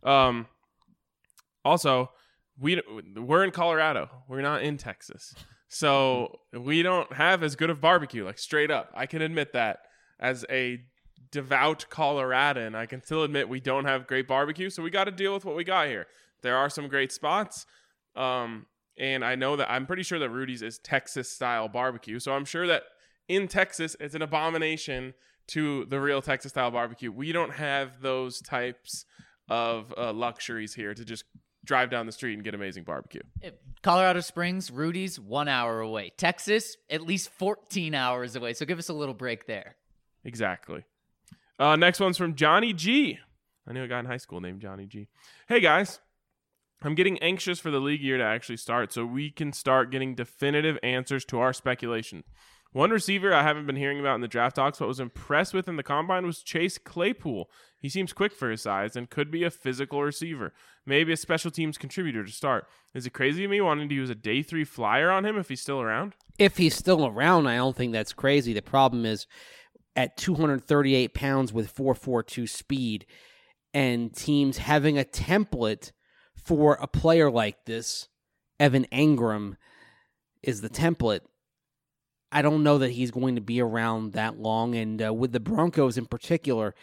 Also, we're in Colorado. We're not in Texas, so we don't have as good of barbecue. Like straight up, I can admit that as a devout Coloradan, I can still admit we don't have great barbecue. So we got to deal with what we got here. There are some great spots. And I know that I'm pretty sure that Rudy's is Texas style barbecue. So I'm sure that in Texas, it's an abomination to the real Texas style barbecue. We don't have those types of luxuries here to just drive down the street and get amazing barbecue. Colorado Springs, Rudy's, 1 hour away. Texas, at least 14 hours away. So give us a little break there. Exactly. Next one's from Johnny G. I knew a guy in high school named Johnny G. Hey, guys. I'm getting anxious for the league year to actually start so we can start getting definitive answers to our speculation. One receiver I haven't been hearing about in the draft talks but was impressed with in the combine was Chase Claypool. He seems quick for his size and could be a physical receiver, maybe a special teams contributor to start. Is it crazy of me wanting to use a day 3 flyer on him if he's still around? If he's still around, I don't think that's crazy. The problem is at 238 pounds with 4.42 speed and teams having a template for a player like this, Evan Engram is the template. I don't know that he's going to be around that long. And with the Broncos in particular,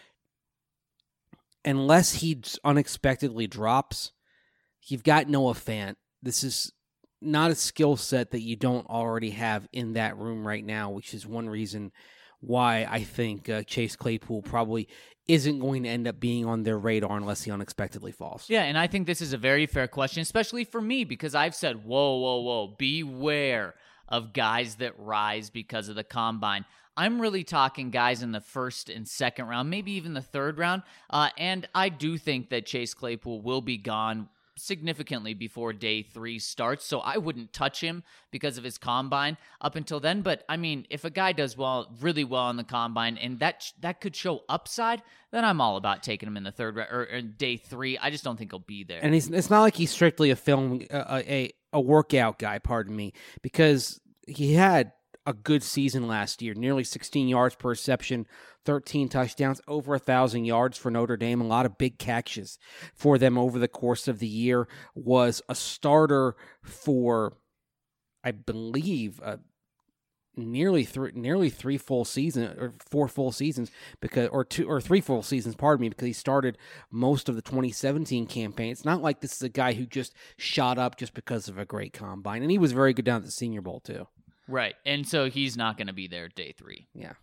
unless he unexpectedly drops, you've got Noah Fant. This is not a skill set that you don't already have in that room right now, which is one reason why I think Chase Claypool probably isn't going to end up being on their radar unless he unexpectedly falls. Yeah, and I think this is a very fair question, especially for me, because I've said, whoa, beware of guys that rise because of the combine. I'm really talking guys in the first and second round, maybe even the third round, and I do think that Chase Claypool will be gone significantly before day 3 starts, so I wouldn't touch him because of his combine up until then. But I mean, if a guy does really well in the combine, and that could show upside, then I'm all about taking him in the third or day 3. I just don't think he'll be there. And it's not like he's strictly a workout guy, pardon me, because he had a good season last year, nearly 16 yards per reception, 13 touchdowns, over 1,000 yards for Notre Dame, a lot of big catches for them over the course of the year, was a starter for, I believe, nearly 3 full seasons, or 4 full seasons, or 3 full seasons, pardon me, because he started most of the 2017 campaign. It's not like this is a guy who just shot up just because of a great combine, and he was very good down at the Senior Bowl too. Right, and so he's not going to be there day 3. Yeah.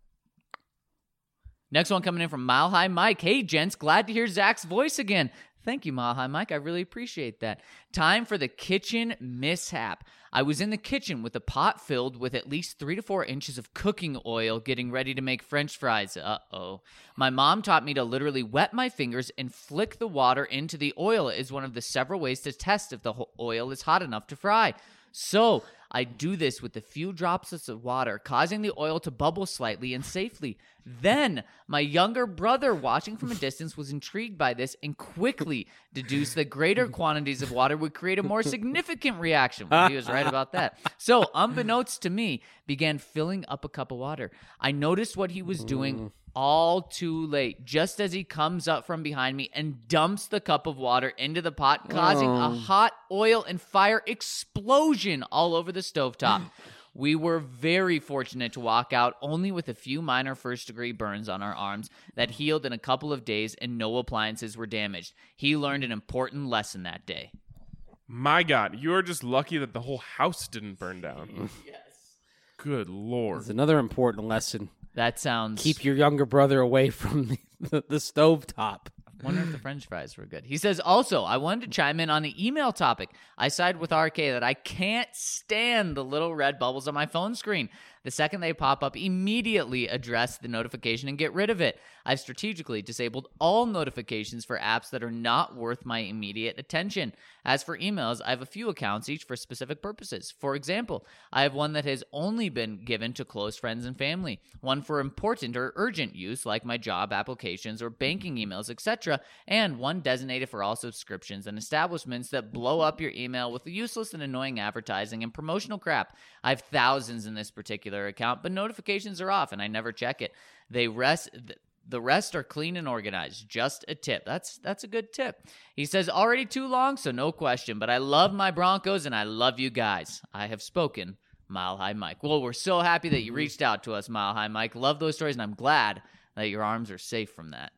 Next one coming in from Mile High Mike. Hey, gents, glad to hear Zach's voice again. Thank you, Mile High Mike. I really appreciate that. Time for the kitchen mishap. I was in the kitchen with a pot filled with at least 3 to 4 inches of cooking oil getting ready to make French fries. Uh-oh. My mom taught me to literally wet my fingers and flick the water into the oil as one of the several ways to test if the oil is hot enough to fry. So I do this with a few drops of water, causing the oil to bubble slightly and safely. Then my younger brother, watching from a distance, was intrigued by this and quickly deduced that greater quantities of water would create a more significant reaction. Well, he was right about that. So, unbeknownst to me, began filling up a cup of water. I noticed what he was doing all too late, just as he comes up from behind me and dumps the cup of water into the pot, causing a hot oil and fire explosion all over the stovetop. We were very fortunate to walk out only with a few minor first-degree burns on our arms that healed in a couple of days, and no appliances were damaged. He learned an important lesson that day. My God, you are just lucky that the whole house didn't burn down. Yes. Good Lord. It's another important lesson. That sounds... Keep your younger brother away from the stovetop. I wonder if the French fries were good. He says, also, I wanted to chime in on the email topic. I side with RK that I can't stand the little red bubbles on my phone screen. The second they pop up, immediately address the notification and get rid of it. I've strategically disabled all notifications for apps that are not worth my immediate attention. As for emails, I have a few accounts, each for specific purposes. For example, I have one that has only been given to close friends and family, one for important or urgent use like my job applications or banking emails, etc., and one designated for all subscriptions and establishments that blow up your email with useless and annoying advertising and promotional crap. I have thousands in this particular account, but notifications are off and I never check it. The rest are clean and organized. Just a tip. That's a good tip. He says, already too long, so no question, but I love my Broncos and I love you guys. I have spoken, Mile High Mike. Well, we're so happy that you reached out to us, Mile High Mike. Love those stories, and I'm glad that your arms are safe from that.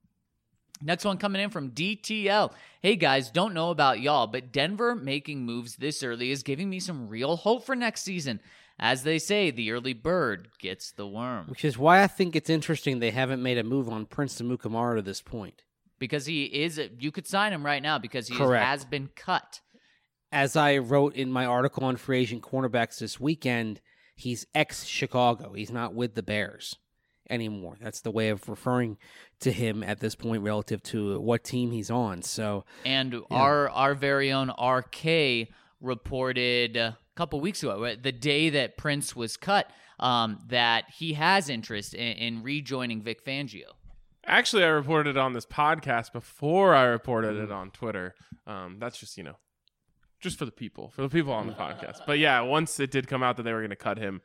Next one coming in from DTL. Hey guys, don't know about y'all, but Denver making moves this early is giving me some real hope for next season. As they say, the early bird gets the worm. Which is why I think it's interesting they haven't made a move on Prince Amukamara to this point. Because you could sign him right now because he Correct. has been cut. As I wrote in my article on free agent cornerbacks this weekend, he's ex-Chicago. He's not with the Bears anymore. That's the way of referring to him at this point relative to what team he's on. So, and our very own RK reported a couple weeks ago, the day that Prince was cut, that he has interest in rejoining Vic Fangio. Actually, I reported it on this podcast before I reported it on Twitter. That's just, just for the people on the podcast. But yeah, once it did come out that they were going to cut him,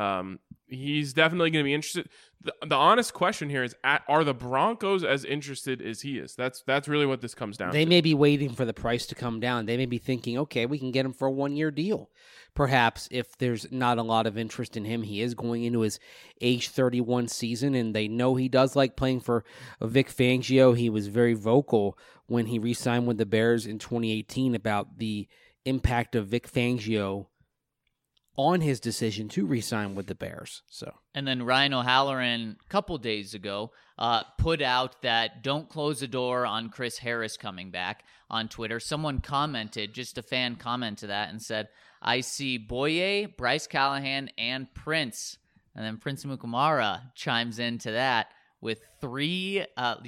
he's definitely going to be interested. The honest question here is, are the Broncos as interested as he is? That's really what this comes down to. They may be waiting for the price to come down. They may be thinking, okay, we can get him for a 1-year deal. Perhaps if there's not a lot of interest in him, he is going into his age 31 season, and they know he does like playing for Vic Fangio. He was very vocal when he re-signed with the Bears in 2018 about the impact of Vic Fangio on his decision to re-sign with the Bears. And then Ryan O'Halloran, a couple days ago, put out that don't close the door on Chris Harris coming back on Twitter. Someone commented, just a fan comment to that, and said, I see Boye, Bryce Callahan, and Prince. And then Prince Amukamara chimes into that with 3,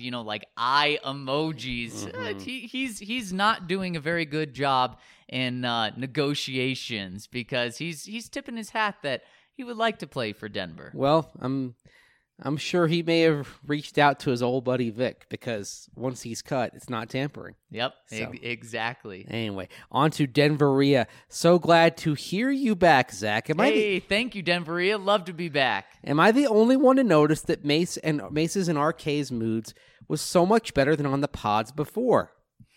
eye emojis. Mm-hmm. He's not doing a very good job in negotiations because he's tipping his hat that he would like to play for Denver. Well, I'm sure he may have reached out to his old buddy Vic because once he's cut, it's not tampering. Yep, So. Exactly. Anyway, on to Denveria. So glad to hear you back, Zach. Thank you, Denveria. Love to be back. Am I the only one to notice that Mace's and RK's moods was so much better than on the pods before?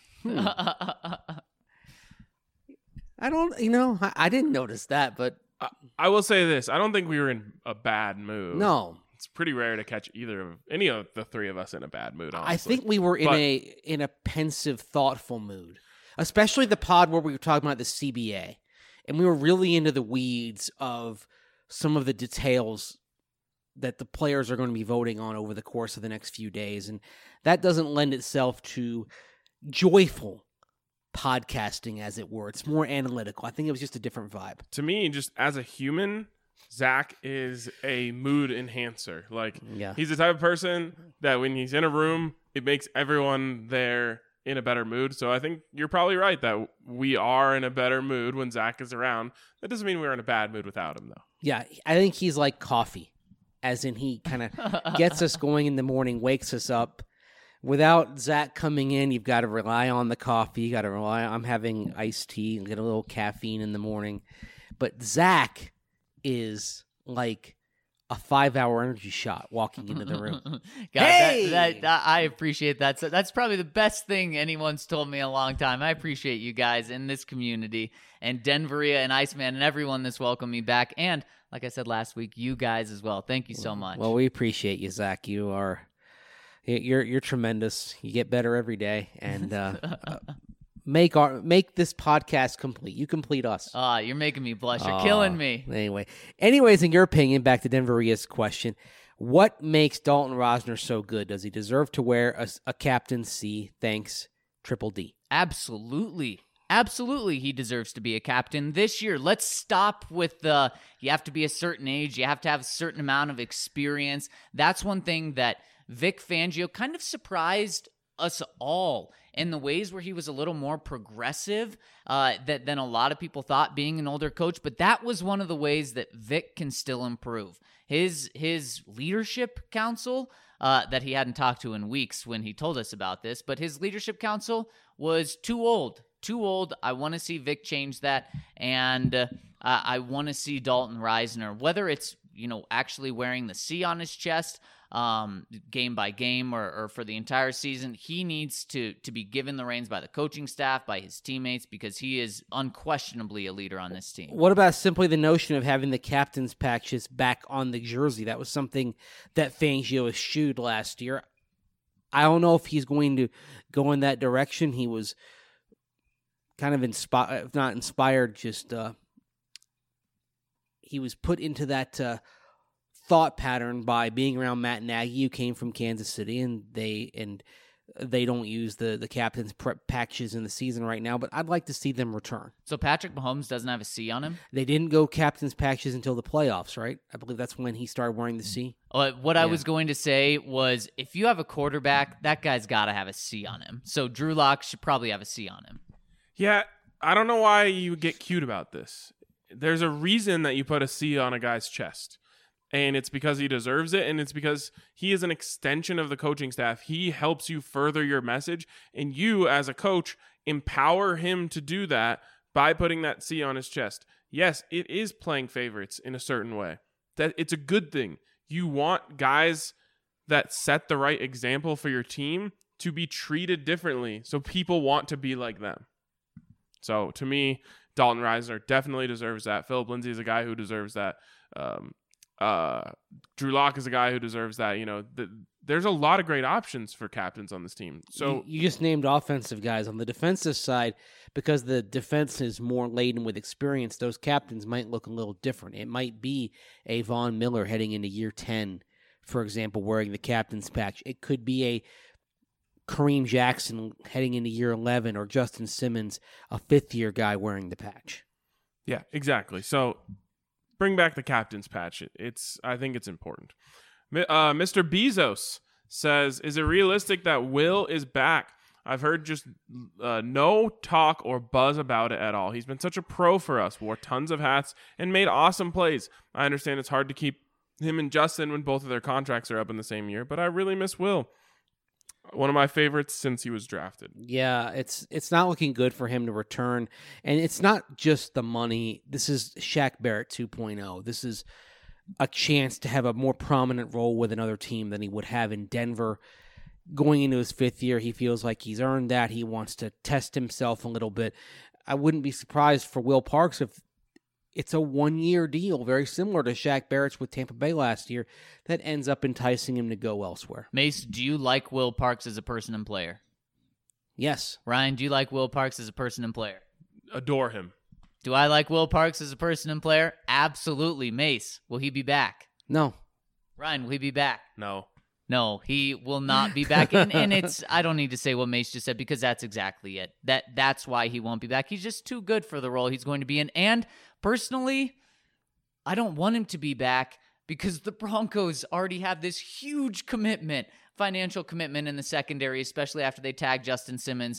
I don't, I didn't notice that, but I will say this. I don't think we were in a bad mood. no. It's pretty rare to catch any of the three of us in a bad mood, honestly. I think we were in a pensive, thoughtful mood, especially the pod where we were talking about the CBA, and we were really into the weeds of some of the details that the players are going to be voting on over the course of the next few days, and that doesn't lend itself to joyful podcasting, as it were. It's more analytical. I think it was just a different vibe. To me, just as a human, Zach is a mood enhancer. He's the type of person that when he's in a room, it makes everyone there in a better mood. So I think you're probably right that we are in a better mood when Zach is around. That doesn't mean we're in a bad mood without him, though. Yeah, I think he's like coffee, as in he kind of gets us going in the morning, wakes us up. Without Zach coming in, you've got to rely on the coffee. You got to rely on having iced tea and get a little caffeine in the morning. But Zach is like a 5-hour energy shot walking into the room. God, Hey! that I appreciate that. So that's probably the best thing anyone's told me in a long time. I appreciate you guys in this community and Denveria and Iceman and everyone that's welcomed me back. And like I said last week, you guys as well. Thank you so much. Well, we appreciate you, Zach. You're tremendous. You get better every day, and make this podcast complete. You complete us. You're making me blush. You're killing me. Anyways, in your opinion, back to Denveria's question, what makes Dalton Rosner so good? Does he deserve to wear a Captain C? Thanks, Triple D. Absolutely. Absolutely, he deserves to be a captain this year. Let's stop with the you have to be a certain age, you have to have a certain amount of experience. That's one thing that Vic Fangio kind of surprised us all in the ways where he was a little more progressive than a lot of people thought, being an older coach. But that was one of the ways that Vic can still improve. His leadership council that he hadn't talked to in weeks when he told us about this, but his leadership council was too old. I want to see Vic change that, and I want to see Dalton Risner, whether it's actually wearing the C on his chest game by game or for the entire season. He needs to be given the reins by the coaching staff, by his teammates, because he is unquestionably a leader on this team. What about simply the notion of having the captain's patches back on the jersey? That was something that Fangio eschewed last year. I don't know if he's going to go in that direction. He was kind of inspired, if not inspired, just he was put into that thought pattern by being around Matt Nagy, who came from Kansas City, and they don't use the captain's patches in the season right now, but I'd like to see them return. So Patrick Mahomes doesn't have a C on him? They didn't go captain's patches until the playoffs, right? I believe that's when he started wearing the C. What I was going to say was, if you have a quarterback, that guy's got to have a C on him. So Drew Lock should probably have a C on him. Yeah, I don't know why you get cute about this. There's a reason that you put a C on a guy's chest. And it's because he deserves it, and it's because he is an extension of the coaching staff. He helps you further your message, and you, as a coach, empower him to do that by putting that C on his chest. Yes, it is playing favorites in a certain way. That it's a good thing. You want guys that set the right example for your team to be treated differently, so people want to be like them. So, to me, Dalton Risner definitely deserves that. Philip Lindsay is a guy who deserves that. Drew Lock is a guy who deserves that. There's a lot of great options for captains on this team. So you just named offensive guys. On the defensive side, because the defense is more laden with experience, those captains might look a little different. It might be a Von Miller heading into year 10, for example, wearing the captain's patch. It could be a Kareem Jackson heading into year 11, or Justin Simmons, a fifth-year guy wearing the patch. Yeah, exactly. So bring back the captain's patch. I think it's important. Mr. Bezos says, is it realistic that Will is back? I've heard just no talk or buzz about it at all. He's been such a pro for us, wore tons of hats, and made awesome plays. I understand it's hard to keep him and Justin when both of their contracts are up in the same year, but I really miss Will. One of my favorites since he was drafted. Yeah, it's not looking good for him to return. And it's not just the money. This is Shaq Barrett 2.0. This is a chance to have a more prominent role with another team than he would have in Denver. Going into his fifth year, he feels like he's earned that. He wants to test himself a little bit. I wouldn't be surprised for Will Parks if it's a one-year deal, very similar to Shaq Barrett's with Tampa Bay last year, that ends up enticing him to go elsewhere. Mace, do you like Will Parks as a person and player? Yes. Ryan, do you like Will Parks as a person and player? Adore him. Do I like Will Parks as a person and player? Absolutely. Mace, will he be back? No. Ryan, will he be back? No. No, he will not be back. And it's, I don't need to say what Mace just said, because that's exactly it. That's why he won't be back. He's just too good for the role he's going to be in. And personally, I don't want him to be back because the Broncos already have this huge financial commitment in the secondary, especially after they tagged Justin Simmons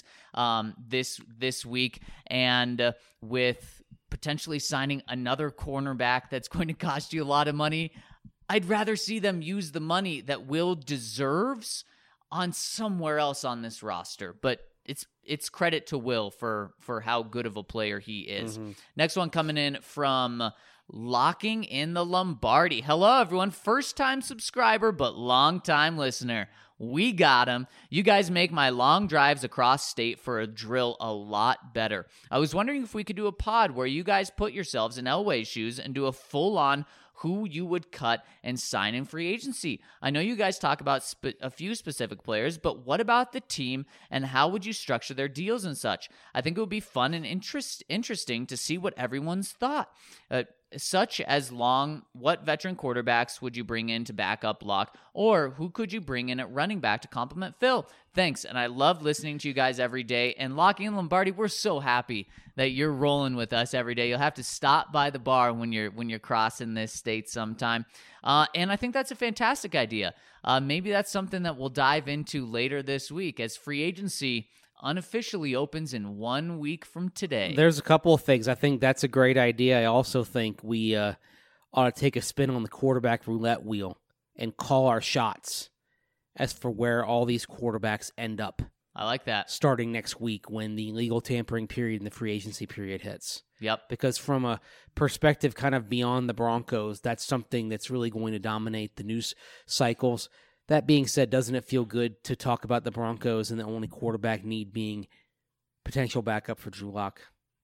this week. And with potentially signing another cornerback that's going to cost you a lot of money, I'd rather see them use the money that Will deserves on somewhere else on this roster. But it's credit to Will for how good of a player he is. Mm-hmm. Next one coming in from Locking in the Lombardi. Hello, everyone. First-time subscriber, but long-time listener. We got him. You guys make my long drives across state for a drill a lot better. I was wondering if we could do a pod where you guys put yourselves in Elway's shoes and do a full-on who you would cut and sign in free agency. I know you guys talk about a few specific players, but what about the team and how would you structure their deals and such? I think it would be fun and interesting to see what everyone's thought. such as what veteran quarterbacks would you bring in to back up Locke, or who could you bring in at running back to complement Phil? Thanks, and I love listening to you guys every day. And Lockie and Lombardi, we're so happy that you're rolling with us every day. You'll have to stop by the bar when you're crossing this state sometime. And I think that's a fantastic idea. Maybe that's something that we'll dive into later this week as free agency unofficially opens in 1 week from today. There's a couple of things. I think that's a great idea. I also think we ought to take a spin on the quarterback roulette wheel and call our shots as for where all these quarterbacks end up. I like that. Starting next week when the legal tampering period and the free agency period hits. Yep. Because from a perspective kind of beyond the Broncos, that's something that's really going to dominate the news cycles. That being said, doesn't it feel good to talk about the Broncos and the only quarterback need being potential backup for Drew Lock?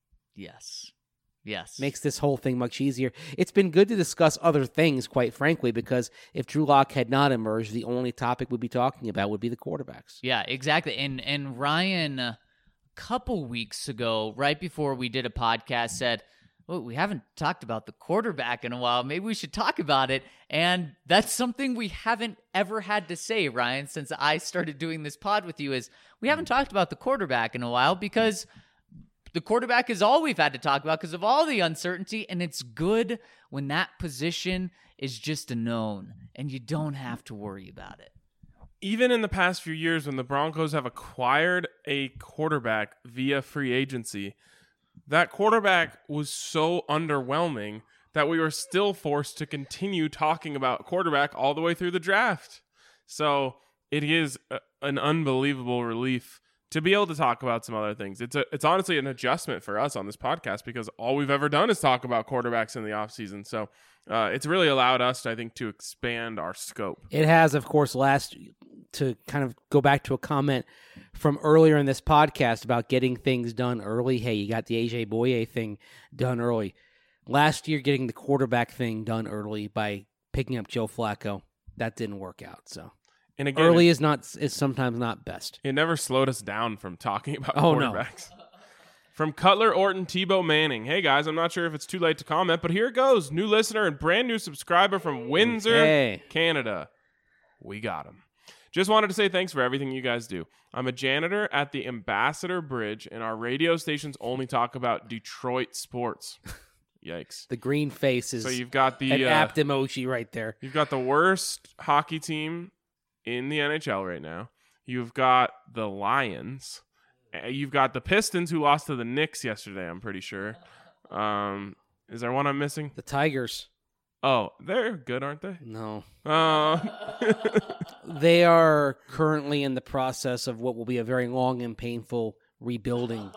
Yes. Makes this whole thing much easier. It's been good to discuss other things, quite frankly, because if Drew Lock had not emerged, the only topic we'd be talking about would be the quarterbacks. Yeah, exactly. And Ryan, a couple weeks ago, right before we did a podcast, said, well, we haven't talked about the quarterback in a while. Maybe we should talk about it. And that's something we haven't ever had to say, Ryan, since I started doing this pod with you, is we haven't talked about the quarterback in a while because the quarterback is all we've had to talk about because of all the uncertainty. And it's good when that position is just a known and you don't have to worry about it. Even in the past few years when the Broncos have acquired a quarterback via free agency, that quarterback was so underwhelming that we were still forced to continue talking about quarterback all the way through the draft. So it is an unbelievable relief to be able to talk about some other things. It's honestly an adjustment for us on this podcast because all we've ever done is talk about quarterbacks in the offseason. So it's really allowed us, I think, to expand our scope. It has, of course, to kind of go back to a comment from earlier in this podcast about getting things done early. Hey, you got the AJ Boye thing done early. Last year, getting the quarterback thing done early by picking up Joe Flacco, that didn't work out. So, and again, early is sometimes not best. It never slowed us down from talking about No. quarterbacks. From Cutler, Orton, Tebow, Manning. Hey, guys, I'm not sure if it's too late to comment, but here it goes. New listener and brand new subscriber from Windsor, Canada. We got him. Just wanted to say thanks for everything you guys do. I'm a janitor at the Ambassador Bridge, and our radio stations only talk about Detroit sports. Yikes. The green face is so you've got the an apt emoji right there. You've got the worst hockey team in the NHL right now. You've got the Lions. You've got the Pistons, who lost to the Knicks yesterday, I'm pretty sure. Is there one I'm missing? The Tigers. Oh, they're good, aren't they? No. They are currently in the process of what will be a very long and painful rebuilding.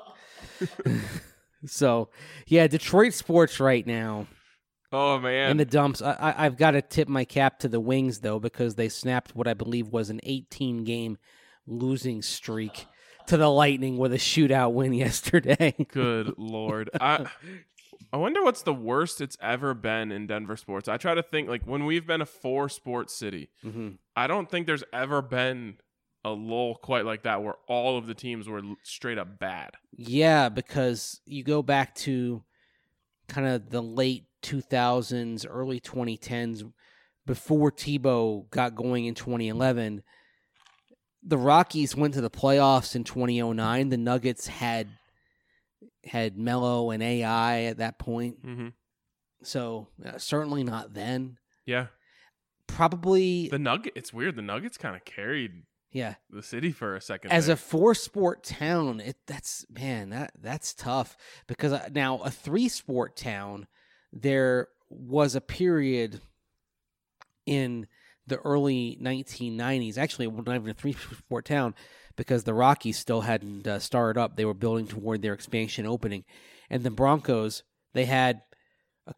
So, yeah, Detroit sports right now. Oh, man. In the dumps. I've got to tip my cap to the Wings, though, because they snapped what I believe was an 18-game losing streak to the Lightning with a shootout win yesterday. Good Lord. I wonder what's the worst it's ever been in Denver sports. I try to think, like, when we've been a 4-sport city, I don't think there's ever been a lull quite like that where all of the teams were straight up bad. Yeah, because you go back to kind of the late 2000s, early 2010s, before Tebow got going in 2011, the Rockies went to the playoffs in 2009. The Nuggets had Melo and AI at that point. So certainly not then. Yeah. Probably It's weird. The Nuggets kind of carried the city for a second. As a 4-sport town, that's tough because now a 3-sport town, there was a period in the early 1990s. Actually, not even a 3-sport town because the Rockies still hadn't started up. They were building toward their expansion opening. And the Broncos, they had a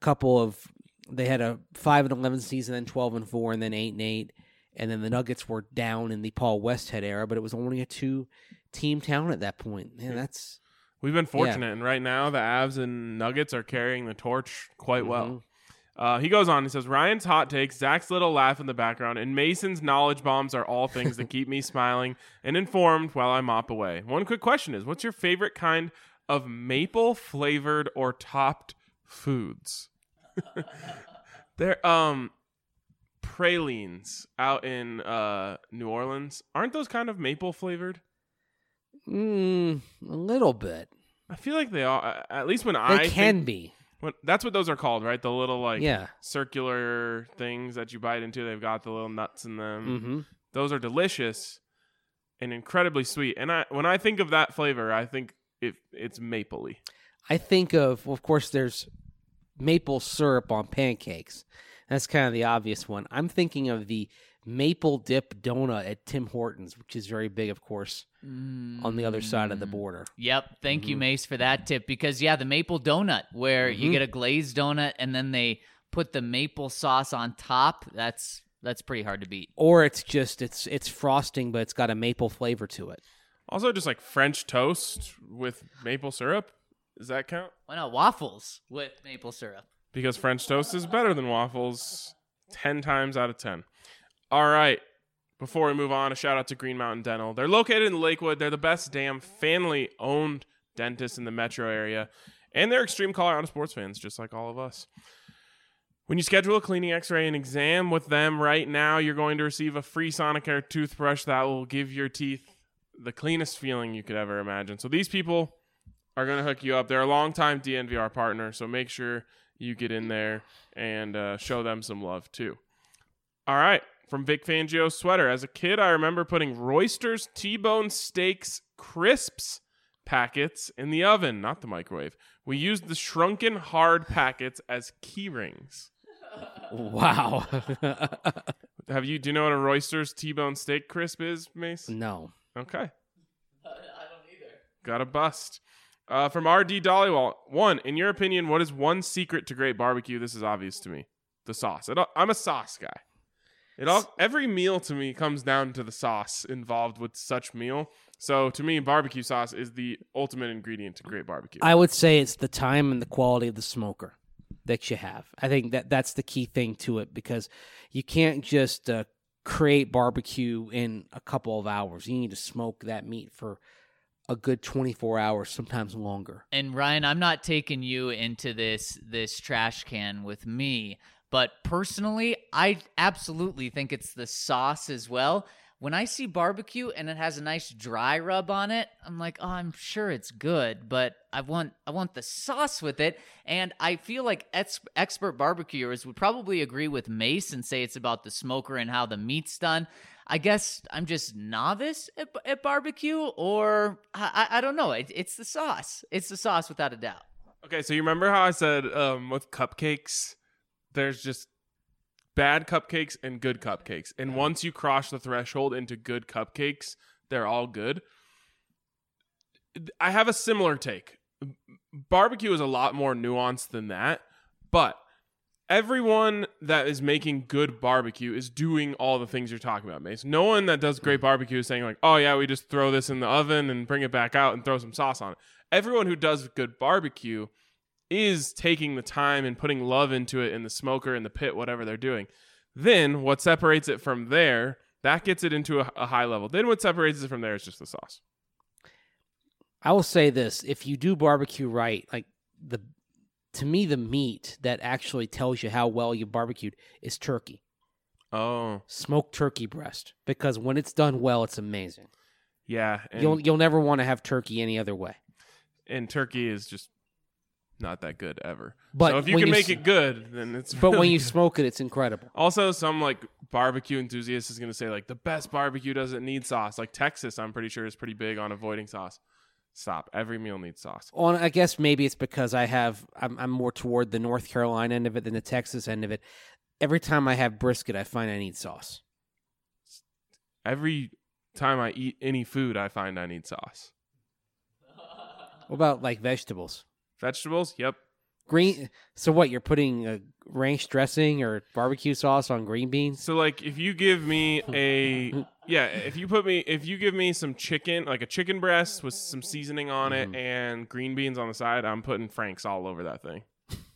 5-11 season, then 12-4, and then 8-8. And then the Nuggets were down in the Paul Westhead era, but it was only a 2-team town at that point. Man, we've been fortunate, and right now the Avs and Nuggets are carrying the torch quite well. He goes on, he says, Ryan's hot takes, Zach's little laugh in the background, and Mason's knowledge bombs are all things that keep me smiling and informed while I mop away. One quick question is, what's your favorite kind of maple-flavored or topped foods? They're pralines out in New Orleans. Aren't those kind of maple flavored? A little bit. I feel like they are. At least when They can be. That's what those are called, right? The little Yeah. circular things that you bite into. They've got the little nuts in them. Mm-hmm. Those are delicious and incredibly sweet. And when I think of that flavor, I think it's mapley. I think of course, there's maple syrup on pancakes. That's kind of the obvious one. I'm thinking of the maple dip donut at Tim Hortons, which is very big, of course, on the other side of the border. Yep. Thank you, Mace, for that tip. Because, the maple donut, where you get a glazed donut and then they put the maple sauce on top, that's pretty hard to beat. Or it's just, it's frosting, but it's got a maple flavor to it. Also, just like French toast with maple syrup. Does that count? Why not waffles with maple syrup? Because French toast is better than waffles 10 times out of 10. All right. Before we move on, a shout out to Green Mountain Dental. They're located in Lakewood. They're the best damn family-owned dentist in the metro area. And they're extreme Colorado sports fans, just like all of us. When you schedule a cleaning, x-ray, and exam with them right now, you're going to receive a free Sonicare toothbrush that will give your teeth the cleanest feeling you could ever imagine. So these people are going to hook you up. They're a longtime DNVR partner, so make sure you get in there and show them some love too. All right, from Vic Fangio's sweater. As a kid, I remember putting Royster's T-bone steaks crisps packets in the oven, not the microwave. We used the shrunken hard packets as key rings. Wow. Do you know what a Royster's T-bone steak crisp is, Mace? No. Okay. I don't either. Got a bust. From RD Dollywall. 1, in your opinion, what is one secret to great barbecue? This is obvious to me. The sauce. I'm a sauce guy. Every meal to me comes down to the sauce involved with such meal. So to me, barbecue sauce is the ultimate ingredient to great barbecue. I would say it's the time and the quality of the smoker that you have. I think that's the key thing to it, because you can't just create barbecue in a couple of hours. You need to smoke that meat for a good 24 hours, sometimes longer. And Ryan, I'm not taking you into this trash can with me, but personally, I absolutely think it's the sauce as well. When I see barbecue and it has a nice dry rub on it, I'm like, oh, I'm sure it's good, but I want the sauce with it. And I feel like expert barbecuers would probably agree with Mace and say it's about the smoker and how the meat's done. I guess I'm just novice at barbecue, or I don't know. It's the sauce. It's the sauce without a doubt. Okay, so you remember how I said with cupcakes, there's just bad cupcakes and good cupcakes. And once you cross the threshold into good cupcakes, they're all good. I have a similar take. Barbecue is a lot more nuanced than that, but everyone that is making good barbecue is doing all the things you're talking about, Mace. No one that does great barbecue is saying like, oh yeah, we just throw this in the oven and bring it back out and throw some sauce on it. Everyone who does good barbecue is taking the time and putting love into it in the smoker, in the pit, whatever they're doing. Then what separates it from there, that gets it into a high level. Then what separates it from there is just the sauce. I will say this. If you do barbecue right, to me, the meat that actually tells you how well you barbecued is turkey. Oh. Smoked turkey breast. Because when it's done well, it's amazing. Yeah. You'll never want to have turkey any other way. And turkey is just not that good ever. But so if you can make it good, then it's But really when you good. smoke it, it's incredible. Also, some like barbecue enthusiast is going to say like the best barbecue doesn't need sauce. Like Texas, I'm pretty sure is pretty big on avoiding sauce. Stop. Every meal needs sauce. Well, I guess maybe it's because I'm more toward the North Carolina end of it than the Texas end of it. Every time I have brisket, I find I need sauce. Every time I eat any food, I find I need sauce. What about like vegetables? Vegetables? Yep. Green. So what? You're putting ranch dressing or barbecue sauce on green beans? So like if you give me if you give me some chicken, like a chicken breast with some seasoning on it and green beans on the side, I'm putting Frank's all over that thing.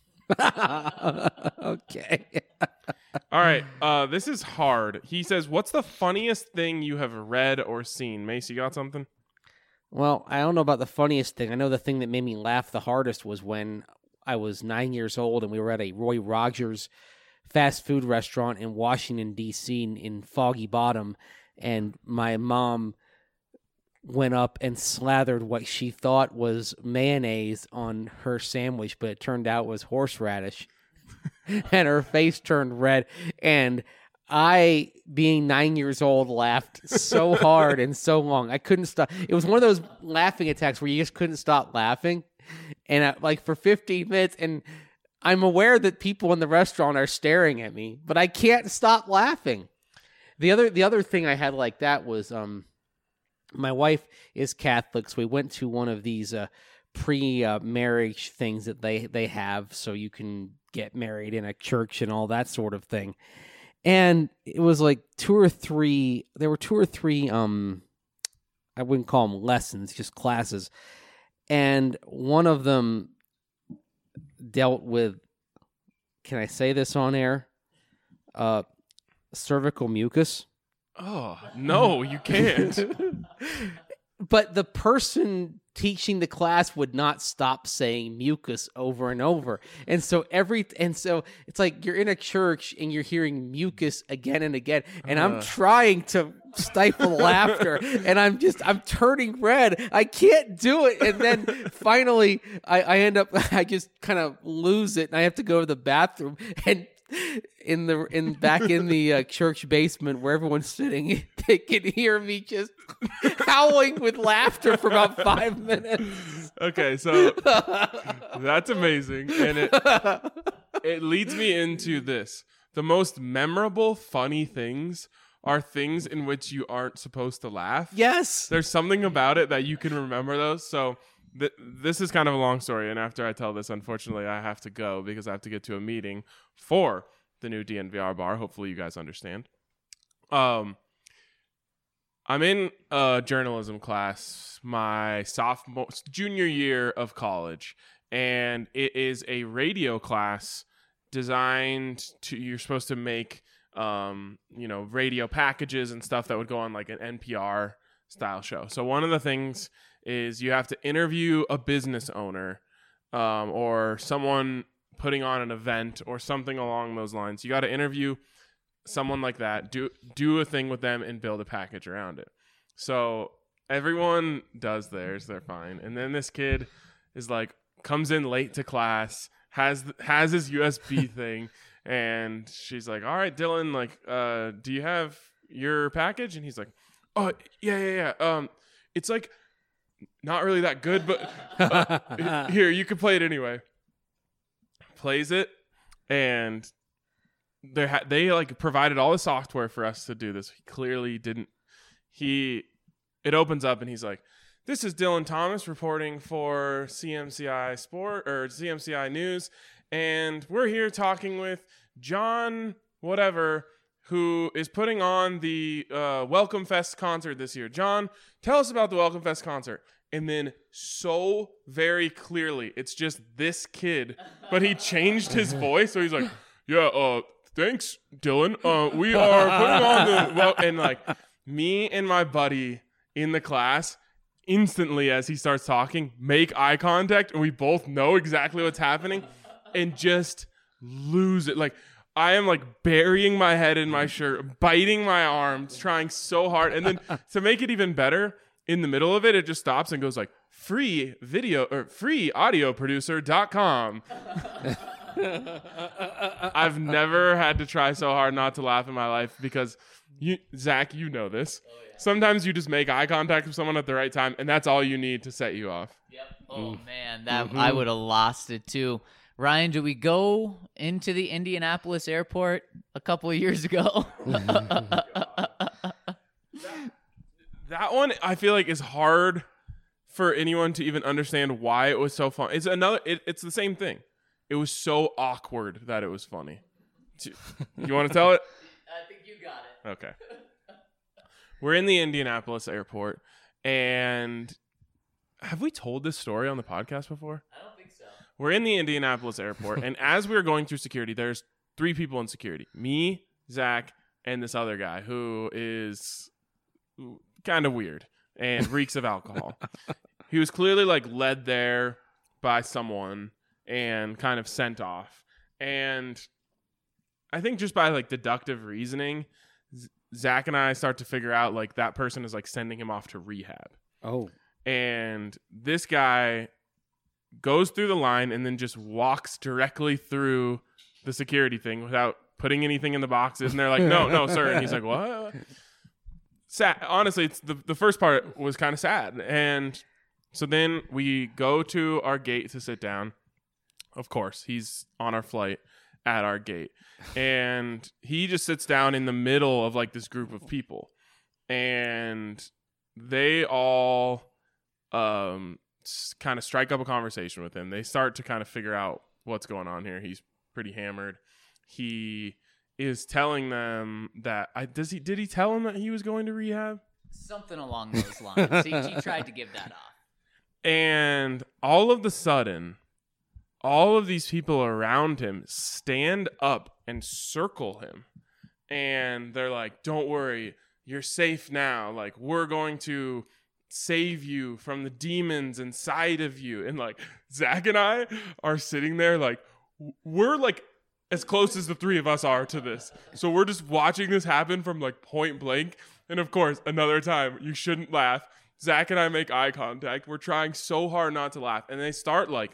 Okay. All right. This is hard. He says, what's the funniest thing you have read or seen? Mace, you got something? Well, I don't know about the funniest thing. I know the thing that made me laugh the hardest was when I was 9 years old, and we were at a Roy Rogers fast food restaurant in Washington, D.C. in Foggy Bottom, and my mom went up and slathered what she thought was mayonnaise on her sandwich, but it turned out was horseradish. And her face turned red, and I, being 9 years old, laughed so hard and so long. I couldn't stop. It was one of those laughing attacks where you just couldn't stop laughing. And for 15 minutes, and I'm aware that people in the restaurant are staring at me, but I can't stop laughing. The other thing I had like that was my wife is Catholic, so we went to one of these pre-marriage things that they have, so you can get married in a church and all that sort of thing. And it was like two or three, I wouldn't call them lessons, just classes. And one of them dealt with, can I say this on air? Cervical mucus. Oh, no, you can't. But the person teaching the class would not stop saying mucus over and over. And so it's like you're in a church and you're hearing mucus again and again. And I'm trying to stifle laughter, and I'm turning red. I can't do it. And then finally I just kind of lose it, and I have to go to the bathroom, and in the church basement where everyone's sitting, they can hear me just howling with laughter for about 5 minutes. Okay, so that's amazing, and it leads me into this. The most memorable, funny things are things in which you aren't supposed to laugh. Yes. There's something about it that you can remember those. So this is kind of a long story, and after I tell this, unfortunately, I have to go because I have to get to a meeting for the new DNVR bar. Hopefully you guys understand. I'm in a journalism class my junior year of college, and it is a radio class designed to, you're supposed to make radio packages and stuff that would go on like an NPR style show. So one of the things is you have to interview a business owner or someone putting on an event or something along those lines. You got to interview someone like that, do a thing with them, and build a package around it. So everyone does theirs, they're fine. And then this kid is like, comes in late to class, has his USB thing, and she's like, all right, Dylan, like, do you have your package? And he's like, oh, yeah. It's like not really that good, but here, you can play it anyway. Plays it, and they like provided all the software for us to do this. He clearly didn't. It opens up, and he's like, this is Dylan Thomas reporting for CMCI Sport or CMCI News, and we're here talking with John whatever, who is putting on the Welcome Fest concert this year. John, tell us about the Welcome Fest concert. And then so very clearly, it's just this kid, but he changed his voice. So he's like, yeah, thanks, Dylan. We are putting on the, and like me and my buddy in the class instantly, as he starts talking, make eye contact, and we both know exactly what's happening and just lose it. Like, I am like burying my head in my shirt, biting my arms, trying so hard. And then to make it even better, in the middle of it, it just stops and goes like, free audio producer.com. I've never had to try so hard not to laugh in my life because Zach, you know this. Oh, yeah. Sometimes you just make eye contact with someone at the right time, and that's all you need to set you off. Yep. Oh man, I would have lost it too. Ryan, did we go into the Indianapolis airport a couple of years ago? That one, I feel like, is hard for anyone to even understand why it was so fun. It's the same thing. It was so awkward that it was funny. You want to tell it? I think you got it. Okay. We're in the Indianapolis airport, and have we told this story on the podcast before? I don't think so. We're in the Indianapolis airport, and as we were going through security, there's 3 people in security. Me, Zach, and this other guy who is kind of weird and reeks of alcohol. He was clearly like led there by someone, and kind of sent off. And I think just by like deductive reasoning, Zach and I start to figure out like that person is like sending him off to rehab. Oh. And this guy goes through the line and then just walks directly through the security thing without putting anything in the boxes. And they're like, no, sir. And he's like, what? Sad. Honestly, it's the first part was kind of sad. And so then we go to our gate to sit down. Of course, he's on our flight at our gate. And he just sits down in the middle of like this group of people. And they all kind of strike up a conversation with him. They start to kind of figure out what's going on here. He's pretty hammered. He is telling them that did he tell him that he was going to rehab? Something along those lines. He tried to give that off. And all of the sudden, all of these people around him stand up and circle him. And they're like, don't worry, you're safe now. Like, we're going to save you from the demons inside of you. And like Zach and I are sitting there like we're like as close as the three of us are to this, so we're just watching this happen from like point blank. And of course, another time, you shouldn't laugh, Zach and I make eye contact. We're trying so hard not to laugh, and they start like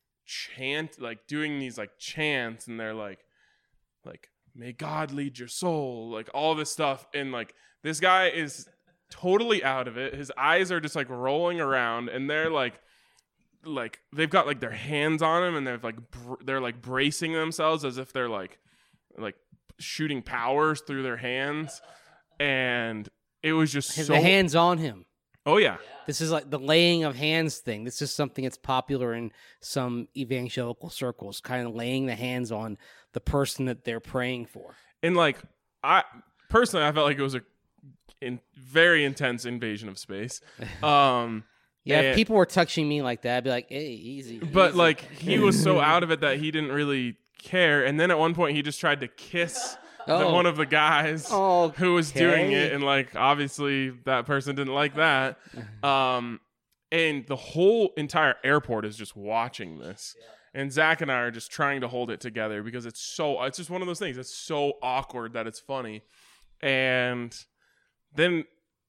doing these like chants, and they're like may God lead your soul, like all this stuff. And like this guy is totally out of it. His eyes are just like rolling around, and they're like they've got like their hands on him, and they're like bracing themselves as if they're like shooting powers through their hands. And it was just so the hands on him. Oh yeah. This is like the laying of hands thing. This is something that's popular in some evangelical circles, kind of laying the hands on the person that they're praying for. And like I felt like it was a very intense invasion of space. Yeah, if people were touching me like that, I'd be like, hey, easy. But easy. like he was so out of it that he didn't really care. And then at one point he just tried to kiss one of the guys who was doing it, and like obviously that person didn't like that. And the whole entire airport is just watching this. And Zach and I are just trying to hold it together because it's just one of those things. It's so awkward that it's funny. And then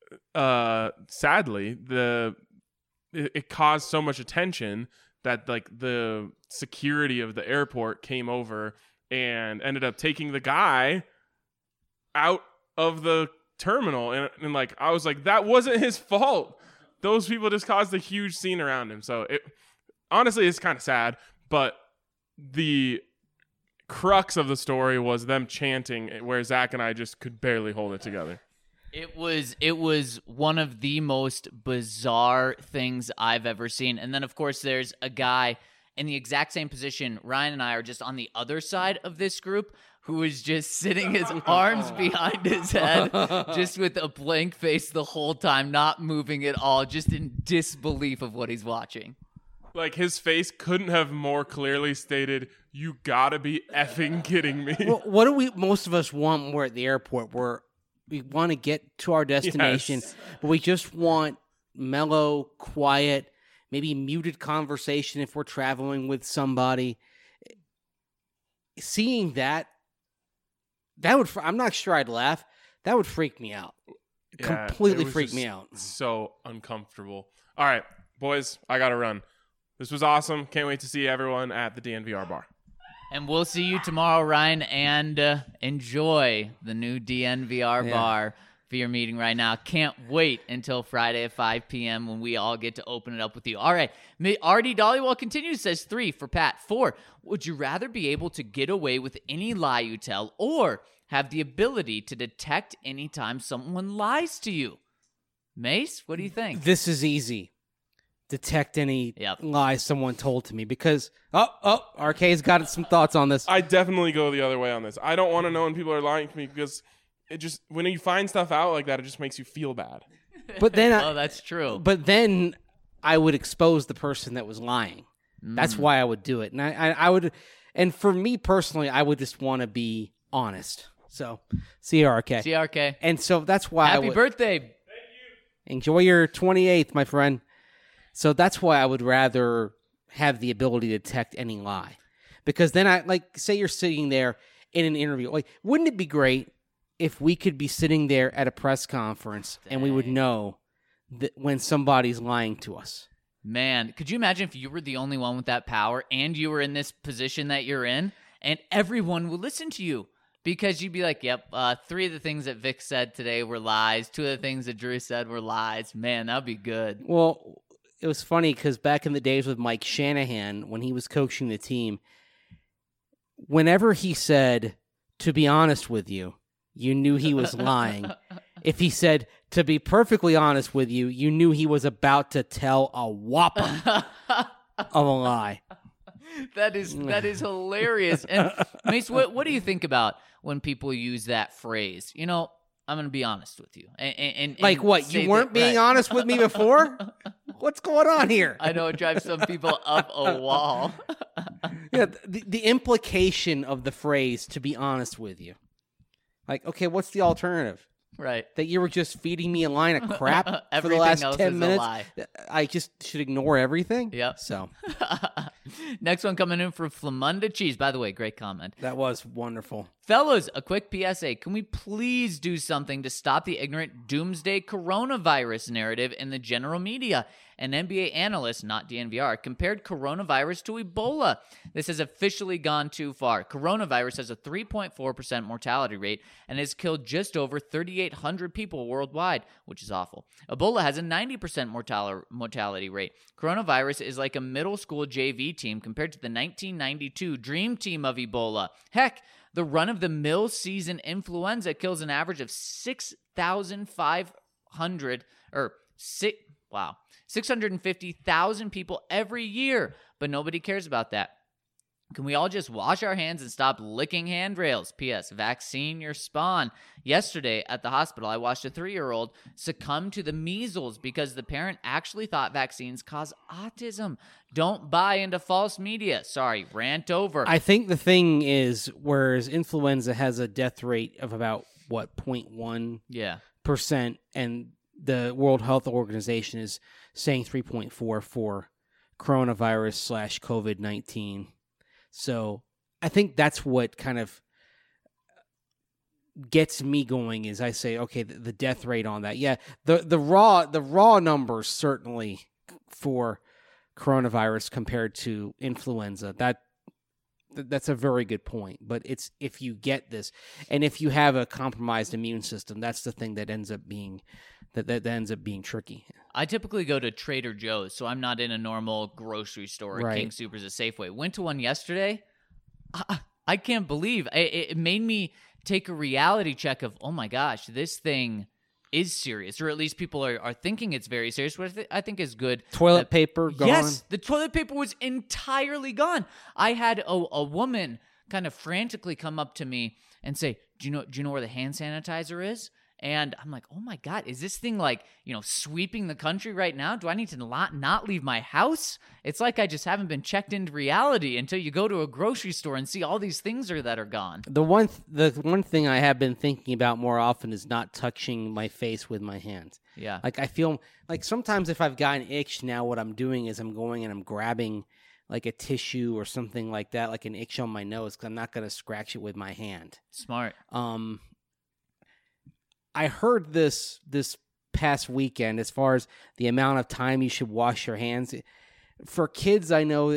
sadly, it caused so much attention that like the security of the airport came over and ended up taking the guy out of the terminal. And like I was like, that wasn't his fault. Those people just caused a huge scene around him. So honestly, it's kind of sad, but the crux of the story was them chanting, where Zach and I just could barely hold it together. It was one of the most bizarre things I've ever seen. And then, of course, there's a guy in the exact same position. Ryan and I are just on the other side of this group, who is just sitting his arms behind his head, just with a blank face the whole time, not moving at all, just in disbelief of what he's watching. Like, his face couldn't have more clearly stated, you gotta be effing kidding me. Well, what do most of us want when we're at the airport? We want to get to our destination, but we just want mellow, quiet, maybe muted conversation if we're traveling with somebody. Seeing that would, I'm not sure I'd laugh. That would freak me out. Yeah, completely freak me out. So uncomfortable. All right, boys, I got to run. This was awesome. Can't wait to see everyone at the DNVR bar. And we'll see you tomorrow, Ryan, and enjoy the new DNVR bar for your meeting right now. Can't wait until Friday at 5 p.m. when we all get to open it up with you. All right. R.D. Dollywell continues, says 3 for Pat. 4, would you rather be able to get away with any lie you tell or have the ability to detect anytime someone lies to you? Mace, what do you think? This is easy. Detect any lies someone told to me, because RK's got some thoughts on this. I definitely go the other way on this. I don't want to know when people are lying to me, because it just, when you find stuff out like that, it just makes you feel bad. But then that's true. But then I would expose the person that was lying. That's why I would do it. And I would, and for me personally, I would just want to be honest. So, CRK. CRK. And so that's why Happy birthday. Thank you. Enjoy your 28th, my friend. So that's why I would rather have the ability to detect any lie. Because then say you're sitting there in an interview. Like, wouldn't it be great if we could be sitting there at a press conference and we would know that when somebody's lying to us? Man, could you imagine if you were the only one with that power and you were in this position that you're in and everyone would listen to you? Because you'd be like, yep, 3 of the things that Vic said today were lies. 2 of the things that Drew said were lies. Man, that'd be good. Well, it was funny because back in the days with Mike Shanahan, when he was coaching the team, whenever he said, to be honest with you, you knew he was lying. If he said, to be perfectly honest with you, you knew he was about to tell a whopper of a lie. That is hilarious. And Mace, what do you think about when people use that phrase? You know, I'm going to be honest with you. And like what? You weren't being honest with me before? What's going on here? I know it drives some people up a wall. Yeah, the implication of the phrase, to be honest with you. Like, okay, what's the alternative? Right. That you were just feeding me a line of crap for the Everything last else 10 is a minutes? lie. I just should ignore everything? Yep. So, Next one coming in from Flamunda Cheese. By the way, great comment. that was wonderful. Fellas, a quick PSA. Can we please do something to stop the ignorant doomsday coronavirus narrative in the general media? An NBA analyst, not DNVR, compared coronavirus to Ebola. This has officially gone too far. Coronavirus has a 3.4% mortality rate and has killed just over 3,800 people worldwide, which is awful. Ebola has a 90% mortality rate. Coronavirus is like a middle school JV team compared to the 1992 Dream Team of Ebola. Heck, the run-of-the-mill season influenza kills an average of 650,000 people every year, but nobody cares about that. Can we all just wash our hands and stop licking handrails? P.S. Vaccine your spawn. Yesterday at the hospital, I watched a 3-year-old succumb to the measles because the parent actually thought vaccines cause autism. Don't buy into false media. Sorry, rant over. I think the thing is, whereas influenza has a death rate of about, 0.1%, Yeah. and the World Health Organization is saying 3.4 for coronavirus / COVID-19. So I think that's what kind of gets me going is I say, okay, the death rate on that. Yeah, the raw numbers certainly for coronavirus compared to influenza. That's a very good point. But it's if you get this and if you have a compromised immune system, that's the thing that ends up being that ends up being tricky. I typically go to Trader Joe's, so I'm not in a normal grocery store. Right. King Soopers, a Safeway. Went to one yesterday. I can't believe it made me take a reality check of, oh my gosh, this thing is serious, or at least people are thinking it's very serious, which I think is good. Toilet paper gone. Yes, the toilet paper was entirely gone. I had a woman kind of frantically come up to me and say, do you know where the hand sanitizer is? And I'm like, oh my God, is this thing like, sweeping the country right now? Do I need to not leave my house? It's like I just haven't been checked into reality until you go to a grocery store and see all these things that are gone. The one thing I have been thinking about more often is not touching my face with my hands. Yeah. Like I feel like sometimes if I've got an itch now, what I'm doing is I'm going and I'm grabbing like a tissue or something like that, like an itch on my nose, because I'm not going to scratch it with my hand. Smart. I heard this past weekend as far as the amount of time you should wash your hands. For kids, I know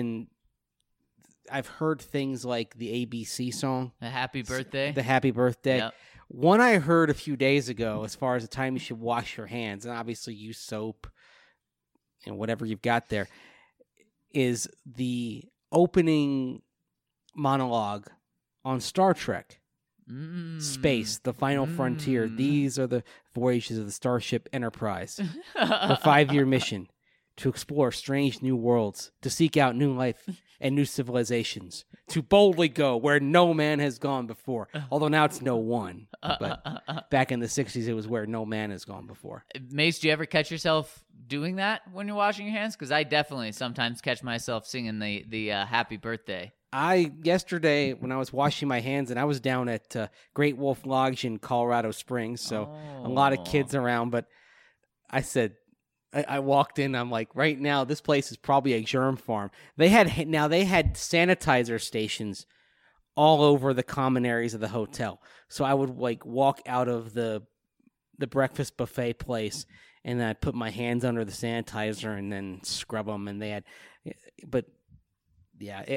I've heard things like the ABC song. A happy birthday. The happy birthday. Yep. One I heard a few days ago as far as the time you should wash your hands, and obviously use soap and whatever you've got there, is the opening monologue on Star Trek. Space, the final frontier. These are the voyages of the Starship Enterprise. The 5-year mission to explore strange new worlds, to seek out new life and new civilizations, to boldly go where no man has gone before. Although now it's no one. But back in the 60s, it was where no man has gone before. Mace, do you ever catch yourself doing that when you're washing your hands? Because I definitely sometimes catch myself singing the happy birthday. Yesterday, when I was washing my hands, and I was down at Great Wolf Lodge in Colorado Springs, so a lot of kids around, but I said, I walked in. I'm like, right now, this place is probably a germ farm. They had sanitizer stations all over the common areas of the hotel. So I would like walk out of the breakfast buffet place, and then I put my hands under the sanitizer and then scrub them. And they had, but yeah,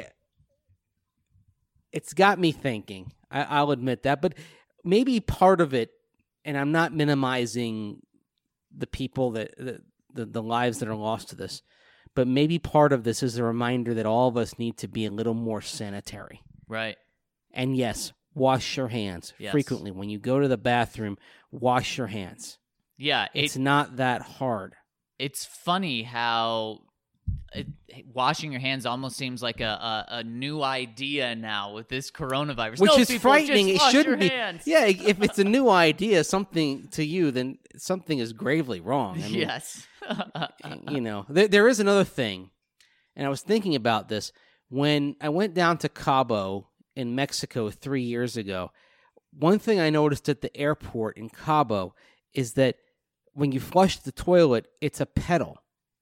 it's got me thinking. I'll admit that, but maybe part of it, and I'm not minimizing the people that the lives that are lost to this, but maybe part of this is a reminder that all of us need to be a little more sanitary. Right. And yes, wash your hands frequently. When you go to the bathroom, wash your hands. Yeah. It's not that hard. It's funny how washing your hands almost seems like a new idea now with this coronavirus. Which is people, frightening. just It wash shouldn't your be. hands. Yeah, if it's a new idea, something to you, then something is gravely wrong. I mean, Yes. There is another thing, and I was thinking about this. When I went down to Cabo in Mexico 3 years ago, one thing I noticed at the airport in Cabo is that when you flush the toilet, it's a pedal.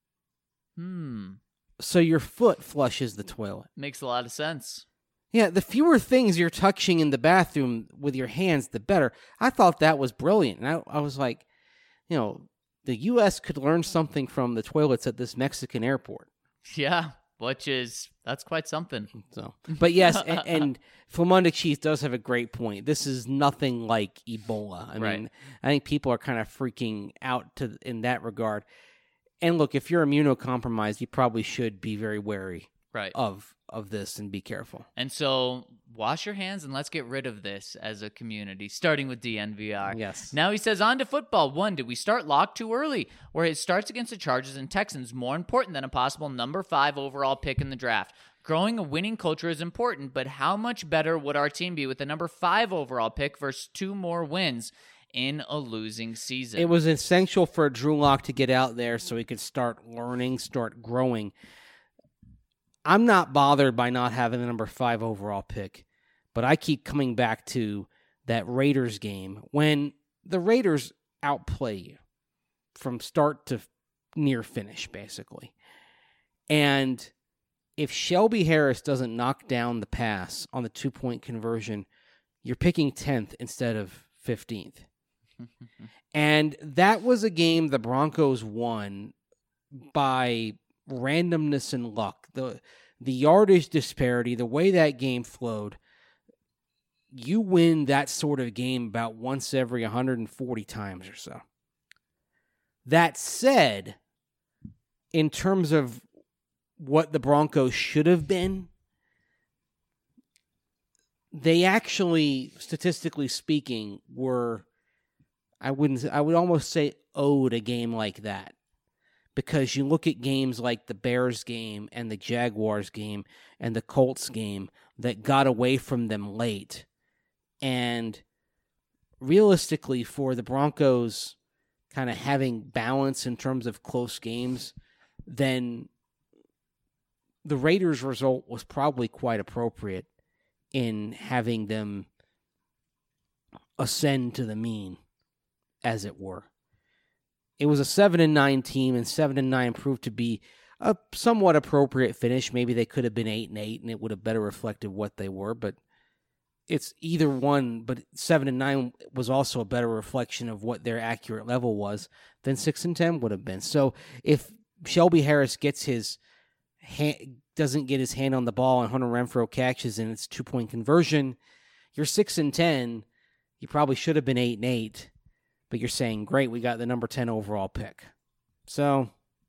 So your foot flushes the toilet. Makes a lot of sense. Yeah, the fewer things you're touching in the bathroom with your hands, the better. I thought that was brilliant. And I was like, the U.S. could learn something from the toilets at this Mexican airport. Yeah, that's quite something. So, but yes, and Flamonde Cheese does have a great point. This is nothing like Ebola. I mean, I think people are kind of freaking out in that regard. And look, if you're immunocompromised, you probably should be very wary of this and be careful. And so wash your hands and let's get rid of this as a community, starting with DNVR. Yes. Now he says, on to football. 1, did we start Locke too early? Where his starts against the Chargers and Texans more important than a possible number 5 overall pick in the draft? Growing a winning culture is important, but how much better would our team be with the number 5 overall pick versus 2 more wins in a losing season? It was essential for Drew Lock to get out there so he could start learning, start growing. I'm not bothered by not having the number 5 overall pick, but I keep coming back to that Raiders game when the Raiders outplay you from start to near finish, basically. And if Shelby Harris doesn't knock down the pass on the 2-point conversion, you're picking 10th instead of 15th. And that was a game the Broncos won by randomness and luck. The yardage disparity, the way that game flowed, you win that sort of game about once every 140 times or so. That said, in terms of what the Broncos should have been, they actually, statistically speaking, were, I would almost say, owed a game like that. Because you look at games like the Bears game and the Jaguars game and the Colts game that got away from them late. And realistically, for the Broncos kind of having balance in terms of close games, then the Raiders' result was probably quite appropriate in having them ascend to the mean, as it were. It was a 7-9 team, and 7-9 proved to be a somewhat appropriate finish. Maybe they could have been 8-8, and it would have better reflected what they were. But it's either one. But 7-9 was also a better reflection of what their accurate level was than 6-10 would have been. So if Shelby Harris doesn't get his hand on the ball and Hunter Renfrow catches and it's 2-point conversion, you're 6-10. You probably should have been 8-8. But you're saying, great, we got the number 10 overall pick. So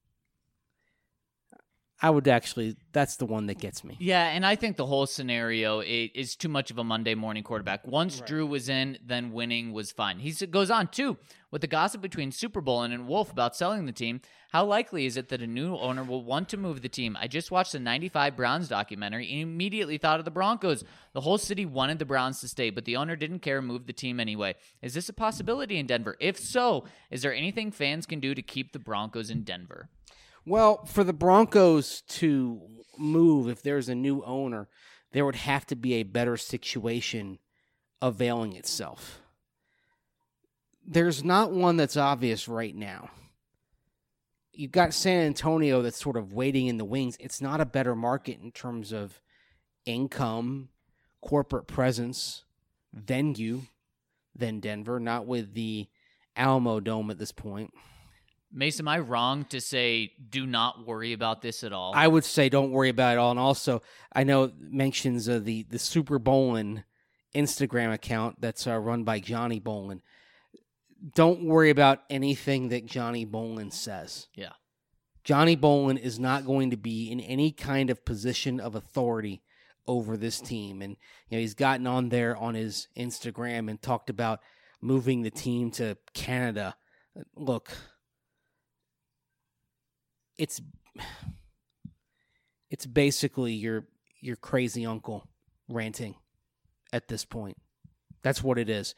I would actually, that's the one that gets me. Yeah, and I think the whole scenario is too much of a Monday morning quarterback. Once Drew was in, then winning was fine. He goes on, too, with the gossip between Super Bowl and Wolf about selling the team, how likely is it that a new owner will want to move the team? I just watched the 95 Browns documentary and immediately thought of the Broncos. The whole city wanted the Browns to stay, but the owner didn't care and moved the team anyway. Is this a possibility in Denver? If so, is there anything fans can do to keep the Broncos in Denver? Well, for the Broncos to move, if there's a new owner, there would have to be a better situation availing itself. There's not one that's obvious right now. you've got San Antonio that's sort of waiting in the wings. It's not a better market in terms of income, corporate presence, venue than Denver, not with the Alamo Dome at this point. Mace, am I wrong to say do not worry about this at all? I would say don't worry about it all. And also, I know mentions of the Super Bowlin Instagram account that's run by Johnny Bolin. Don't worry about anything that Johnny Bolin says. Yeah. Johnny Bolin is not going to be in any kind of position of authority over this team. And he's gotten on there on his Instagram and talked about moving the team to Canada. Look, it's basically your crazy uncle ranting at this point. That's what it is.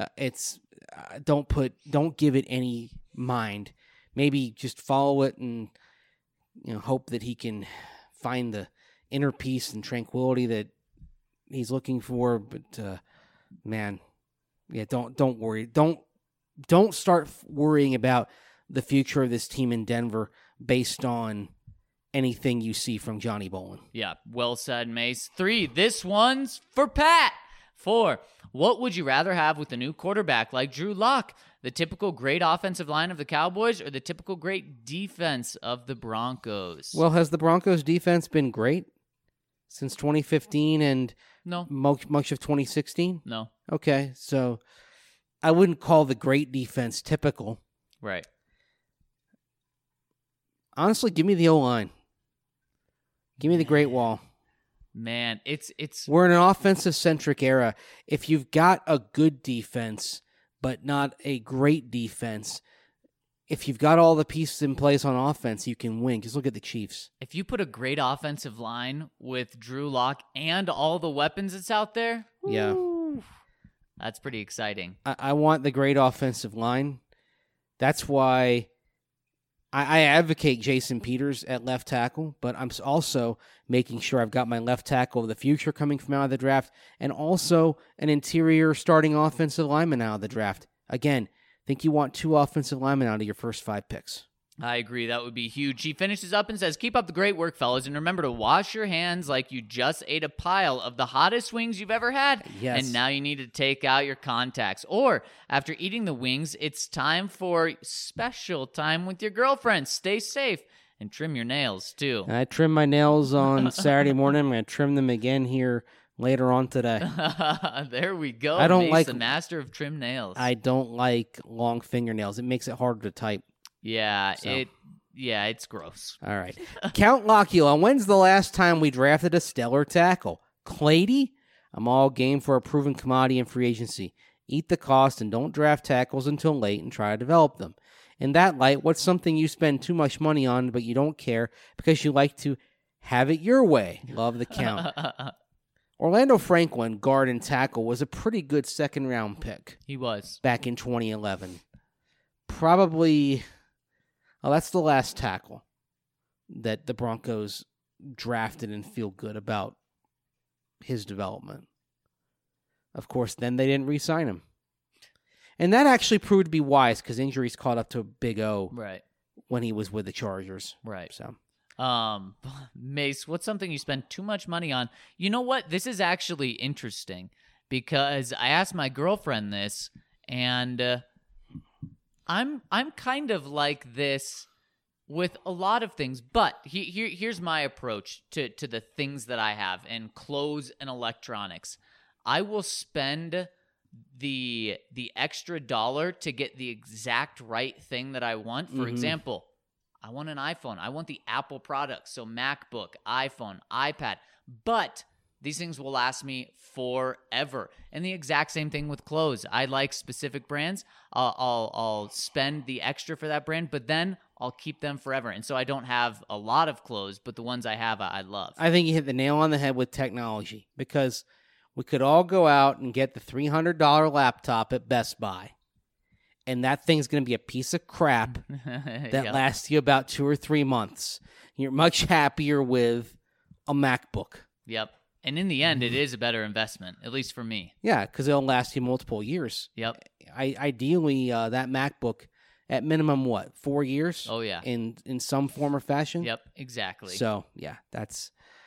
Don't give it any mind. Maybe just follow it and hope that he can find the inner peace and tranquility that he's looking for. But man, yeah, don't worry. Don't start worrying about the future of this team in Denver based on anything you see from Johnny Bolin. Yeah, well said, Mace. 3, this one's for Pat. 4, what would you rather have with a new quarterback like Drew Lock? The typical great offensive line of the Cowboys or the typical great defense of the Broncos? Well, has the Broncos defense been great since 2015 and No. much of 2016? No. Okay, so I wouldn't call the great defense typical. Right. Honestly, give me the O-line. Give me the Great Wall. Man, it's We're in an offensive-centric era. If you've got a good defense, but not a great defense, if you've got all the pieces in place on offense, you can win. Just look at the Chiefs. if you put a great offensive line with Drew Lock and all the weapons that's out there, Yeah. woo, that's pretty exciting. I want the great offensive line. That's why I advocate Jason Peters at left tackle, but I'm also making sure I've got my left tackle of the future coming from out of the draft and also an interior starting offensive lineman out of the draft. Again, I think you want 2 offensive linemen out of your first 5 picks. I agree. That would be huge. He finishes up and says, keep up the great work, fellas, and remember to wash your hands like you just ate a pile of the hottest wings you've ever had. Yes. And now you need to take out your contacts. Or after eating the wings, it's time for special time with your girlfriend. Stay safe and trim your nails, too. I trimmed my nails on Saturday morning. I'm going to trim them again here later on today. There we go. I don't Mace, like- the master of trim nails. I don't like long fingernails. It makes it harder to type. Yeah, So. it's gross. All right. Count Lockula, when's the last time we drafted a stellar tackle? Clady? I'm all game for a proven commodity in free agency. Eat the cost and don't draft tackles until late and try to develop them. In that light, what's something you spend too much money on but you don't care because you like to have it your way? Love the count. Orlando Franklin, guard and tackle, was a pretty good second-round pick He was. back in 2011. Probably... Oh, that's the last tackle that the Broncos drafted and feel good about his development. Of course, then they didn't re-sign him. And that actually proved to be wise because injuries caught up to Big O Right. when he was with the Chargers. Right. So Mace, what's something you spend too much money on? You know what? This is actually interesting because I asked my girlfriend this, and I'm kind of like this with a lot of things. But here's my approach to the things that I have and clothes and electronics. I will spend the extra dollar to get the exact right thing that I want. For example, I want an iPhone. I want the Apple products. So MacBook, iPhone, iPad. But these things will last me forever. And the exact same thing with clothes. I like specific brands. I'll spend the extra for that brand, but then I'll keep them forever. And so I don't have a lot of clothes, but the ones I have, I love. I think you hit the nail on the head with technology because we could all go out and get the $300 laptop at Best Buy, and that thing's going to be a piece of crap that Yep. lasts you about 2 or 3 months. You're much happier with a MacBook. Yep. And in the end, it is a better investment, at least for me. Yeah, because it'll last you multiple years. Yep. Ideally, that MacBook at minimum, what, 4 years? Oh, yeah. In some form or fashion? Yep, exactly. So, yeah, that's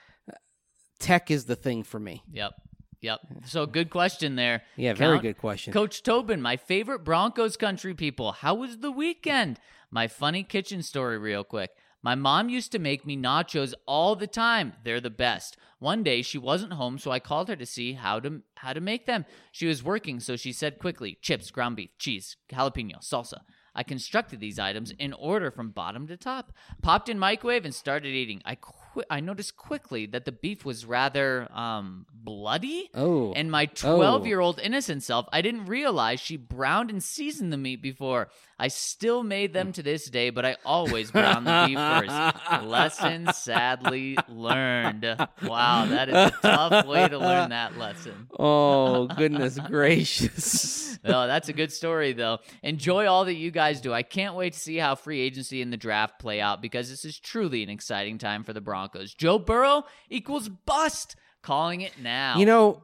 tech is the thing for me. Yep. So good question there. Yeah, very Count. good question. Coach Tobin, my favorite Broncos country people. How was the weekend? My funny kitchen story real quick. My mom used to make me nachos all the time. They're the best. One day she wasn't home, so I called her to see how to make them. She was working, so she said quickly, chips, ground beef, cheese, jalapeno, salsa. I constructed these items in order from bottom to top, popped in microwave, and started eating. I noticed quickly that the beef was rather bloody. Oh. And my 12-year-old innocent self, I didn't realize she browned and seasoned the meat before. I still made them to this day, but I always brown the beef first. Lesson sadly learned. Wow, that is a tough way to learn that lesson. Oh, goodness gracious. No, that's a good story, though. Enjoy all that you guys do. I can't wait to see how free agency and the draft play out because this is truly an exciting time for the Broncos. Joe Burrow equals bust. Calling it now. You know,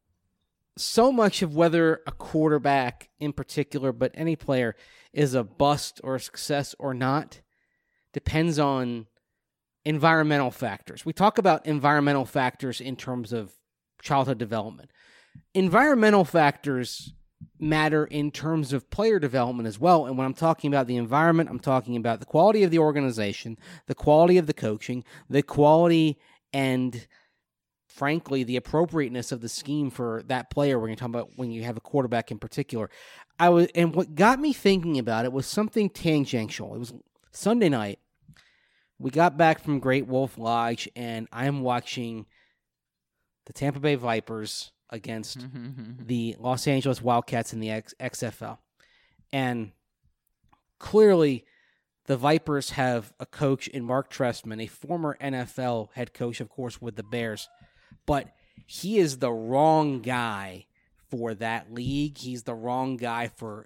so much of whether a quarterback in particular, but any player, is a bust or a success or not depends on environmental factors. We talk about environmental factors in terms of childhood development. Environmental factors matter in terms of player development as well. And when I'm talking about the environment, I'm talking about the quality of the organization, the quality of the coaching, the quality and, frankly, the appropriateness of the scheme for that player. We're going to talk about when you have a quarterback in particular. And what got me thinking about it was something tangential. It was Sunday night. We got back from Great Wolf Lodge, and I'm watching the Tampa Bay Vipers against the Los Angeles Wildcats in the XFL. And clearly, the Vipers have a coach in Mark Trestman, a former NFL head coach, of course, with the Bears. But he is the wrong guy for that league. He's the wrong guy for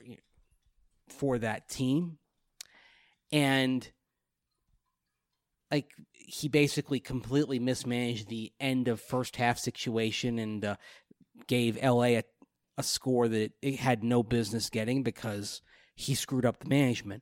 that team. And he basically completely mismanaged the end of first half situation and gave LA a score that it had no business getting because he screwed up the management.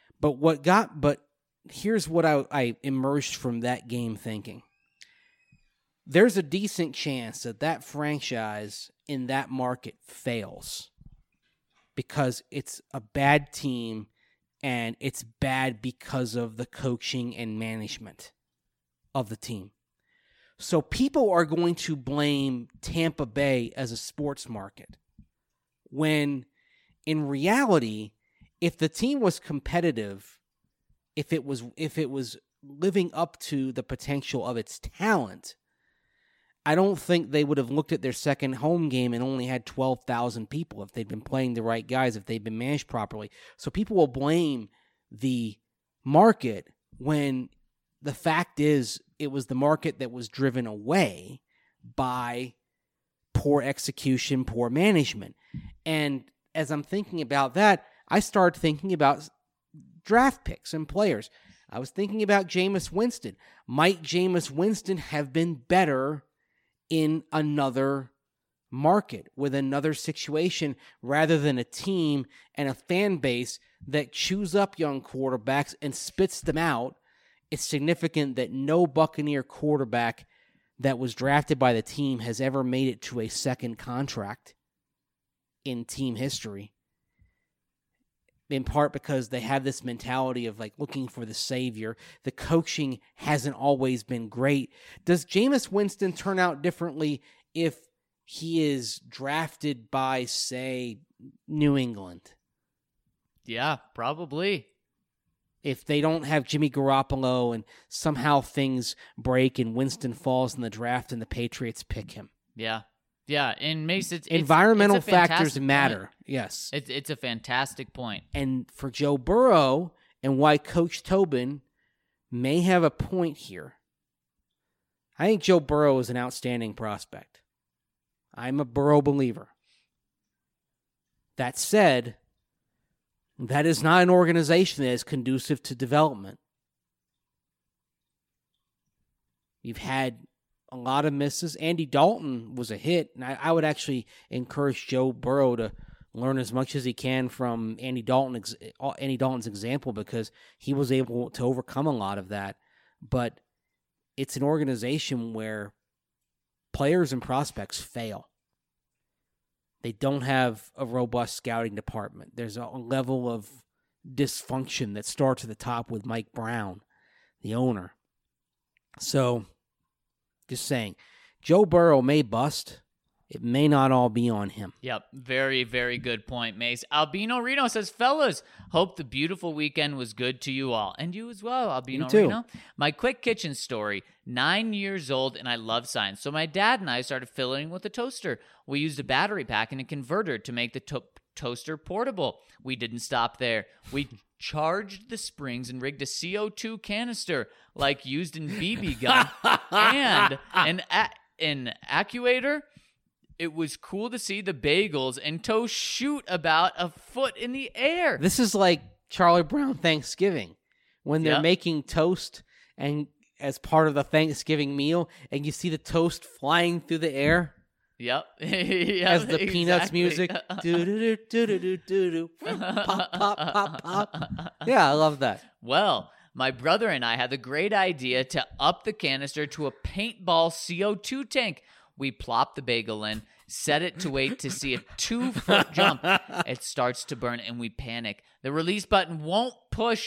But here's what I emerged from that game thinking. There's a decent chance that franchise in that market fails because it's a bad team and it's bad because of the coaching and management of the team. So people are going to blame Tampa Bay as a sports market when in reality, if the team was competitive, if it was living up to the potential of its talent, I don't think they would have looked at their second home game and only had 12,000 people if they'd been playing the right guys, if they'd been managed properly. So people will blame the market when the fact is it was the market that was driven away by poor execution, poor management. And as I'm thinking about that, I started thinking about draft picks and players. I was thinking about Jameis Winston. Might Jameis Winston have been better in another market with another situation rather than a team and a fan base that chews up young quarterbacks and spits them out? It's significant that no Buccaneer quarterback that was drafted by the team has ever made it to a second contract in team history. In part because they have this mentality of looking for the savior. The coaching hasn't always been great. Does Jameis Winston turn out differently if he is drafted by, say, New England? Yeah, probably. If they don't have Jimmy Garoppolo and somehow things break and Winston falls in the draft and the Patriots pick him. Yeah. Yeah, and Mace, environmental it's a factors matter. Point. Yes, it's a fantastic point. And for Joe Burrow, and why Coach Tobin may have a point here, I think Joe Burrow is an outstanding prospect. I'm a Burrow believer. That said, that is not an organization that is conducive to development. You've had a lot of misses. Andy Dalton was a hit, and I would actually encourage Joe Burrow to learn as much as he can from Andy Dalton's example, because he was able to overcome a lot of that. But it's an organization where players and prospects fail. They don't have a robust scouting department. There's a level of dysfunction that starts at the top with Mike Brown, the owner. So, just saying, Joe Burrow may bust. It may not all be on him. Yep, very, very good point, Mace. Albino Reno says, fellas, hope the beautiful weekend was good to you all. And you as well, Albino You too. Reno. My quick kitchen story, 9 years old, and I love science. So my dad and I started fiddling with a toaster. We used a battery pack and a converter to make the toaster portable. We didn't stop there. We charged the springs and rigged a CO2 canister like used in BB gun and an actuator. It was cool to see the bagels and toast shoot about a foot in the air. This is like Charlie Brown Thanksgiving, when they're Yep. making toast and as part of the Thanksgiving meal, and you see the toast flying through the air Yep. as the Peanuts music. Do-do-do-do-do-do-do. Pop, pop, pop, pop. Yeah, I love that. Well, my brother and I had the great idea to up the canister to a paintball CO2 tank. We plop the bagel in, set it to wait to see a 2-foot jump. It starts to burn and we panic. The release button won't push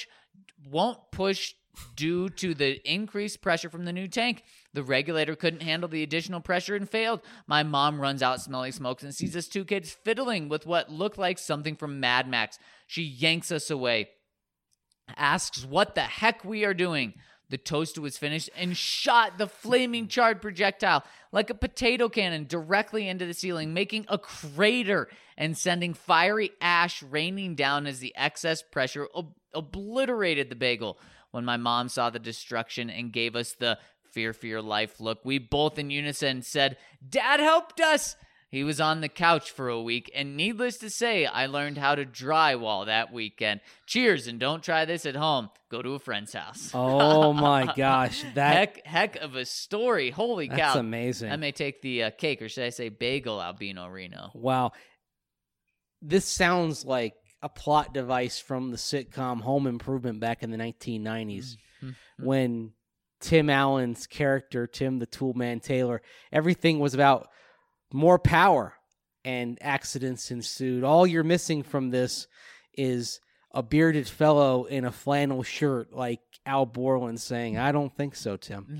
due to the increased pressure from the new tank. The regulator couldn't handle the additional pressure and failed. My mom runs out smelling smokes and sees us two kids fiddling with what looked like something from Mad Max. She yanks us away, asks what the heck we are doing. The toaster was finished and shot the flaming charred projectile like a potato cannon directly into the ceiling, making a crater and sending fiery ash raining down as the excess pressure obliterated the bagel. When my mom saw the destruction and gave us the fear for your life look, we both in unison said, "Dad helped us." He was on the couch for a week, and needless to say, I learned how to drywall that weekend. Cheers, and don't try this at home. Go to a friend's house. Oh my gosh, Heck of a story. Holy that's cow. amazing. I may take the cake, or should I say bagel, Albino Reno. Wow. This sounds like a plot device from the sitcom Home Improvement back in the 1990s when Tim Allen's character, Tim the Toolman Taylor, everything was about more power and accidents ensued. All you're missing from this is a bearded fellow in a flannel shirt like Al Borland saying, "I don't think so, Tim."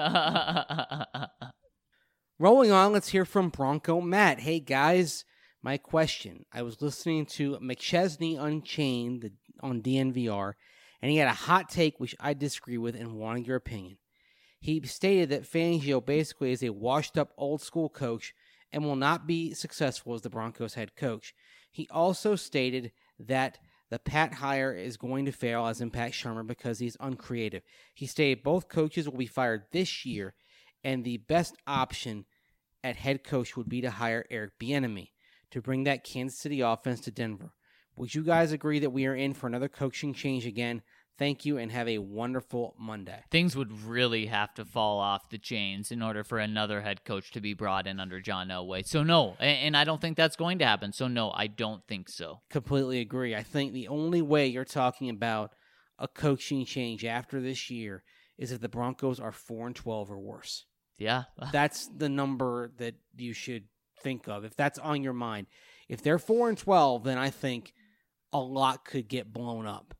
Rolling on, let's hear from Bronco Matt. Hey, guys, my question. I was listening to McChesney Unchained on DNVR, and he had a hot take which I disagree with and wanted your opinion. He stated that Fangio basically is a washed-up old-school coach and will not be successful as the Broncos head coach. He also stated that the Pat hire is going to fail, as in Pat Shurmur, because he's uncreative. He stated both coaches will be fired this year, and the best option at head coach would be to hire Eric Bieniemy to bring that Kansas City offense to Denver. Would you guys agree that we are in for another coaching change again? Thank you, and have a wonderful Monday. Things would really have to fall off the chains in order for another head coach to be brought in under John Elway. So no, and I don't think that's going to happen. So no, I don't think so. Completely agree. I think the only way you're talking about a coaching change after this year is if the Broncos are 4-12 or worse. Yeah. That's the number that you should think of, if that's on your mind. If they're 4-12, then I think a lot could get blown up.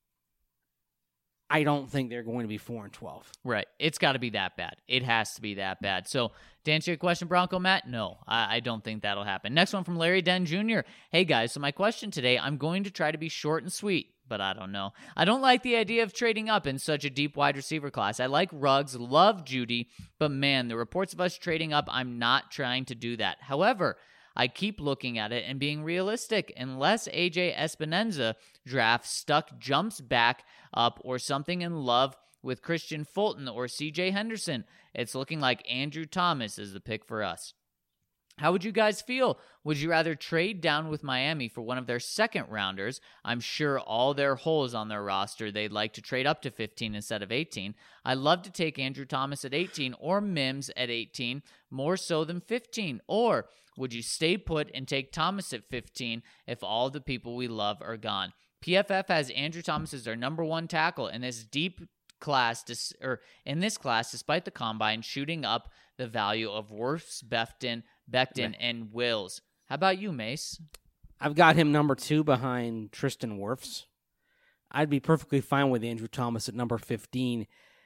I don't think they're going to be 4-12. Right. It's got to be that bad. It has to be that bad. So to answer your question, Bronco Matt, no, I don't think that'll happen. Next one from Larry Den Jr. Hey, guys, so my question today, I'm going to try to be short and sweet, but I don't know. I don't like the idea of trading up in such a deep wide receiver class. I like Ruggs, love Judy, but man, the reports of us trading up, I'm not trying to do that. However, I keep looking at it and being realistic. Unless AJ Espinoza draft stuck jumps back up or something in love with Christian Fulton or CJ Henderson, it's looking like Andrew Thomas is the pick for us. How would you guys feel? Would you rather trade down with Miami for one of their second rounders? I'm sure all their holes on their roster, they'd like to trade up to 15 instead of 18. I'd love to take Andrew Thomas at 18 or Mims at 18, more so than 15. Or would you stay put and take Thomas at 15 if all the people we love are gone? PFF has Andrew Thomas as their number one tackle in this class, despite the combine, shooting up the value of Wirfs, Becton, and Wills. How about you, Mace? I've got him number 2 behind Tristan Wirfs. I'd be perfectly fine with Andrew Thomas at number 15.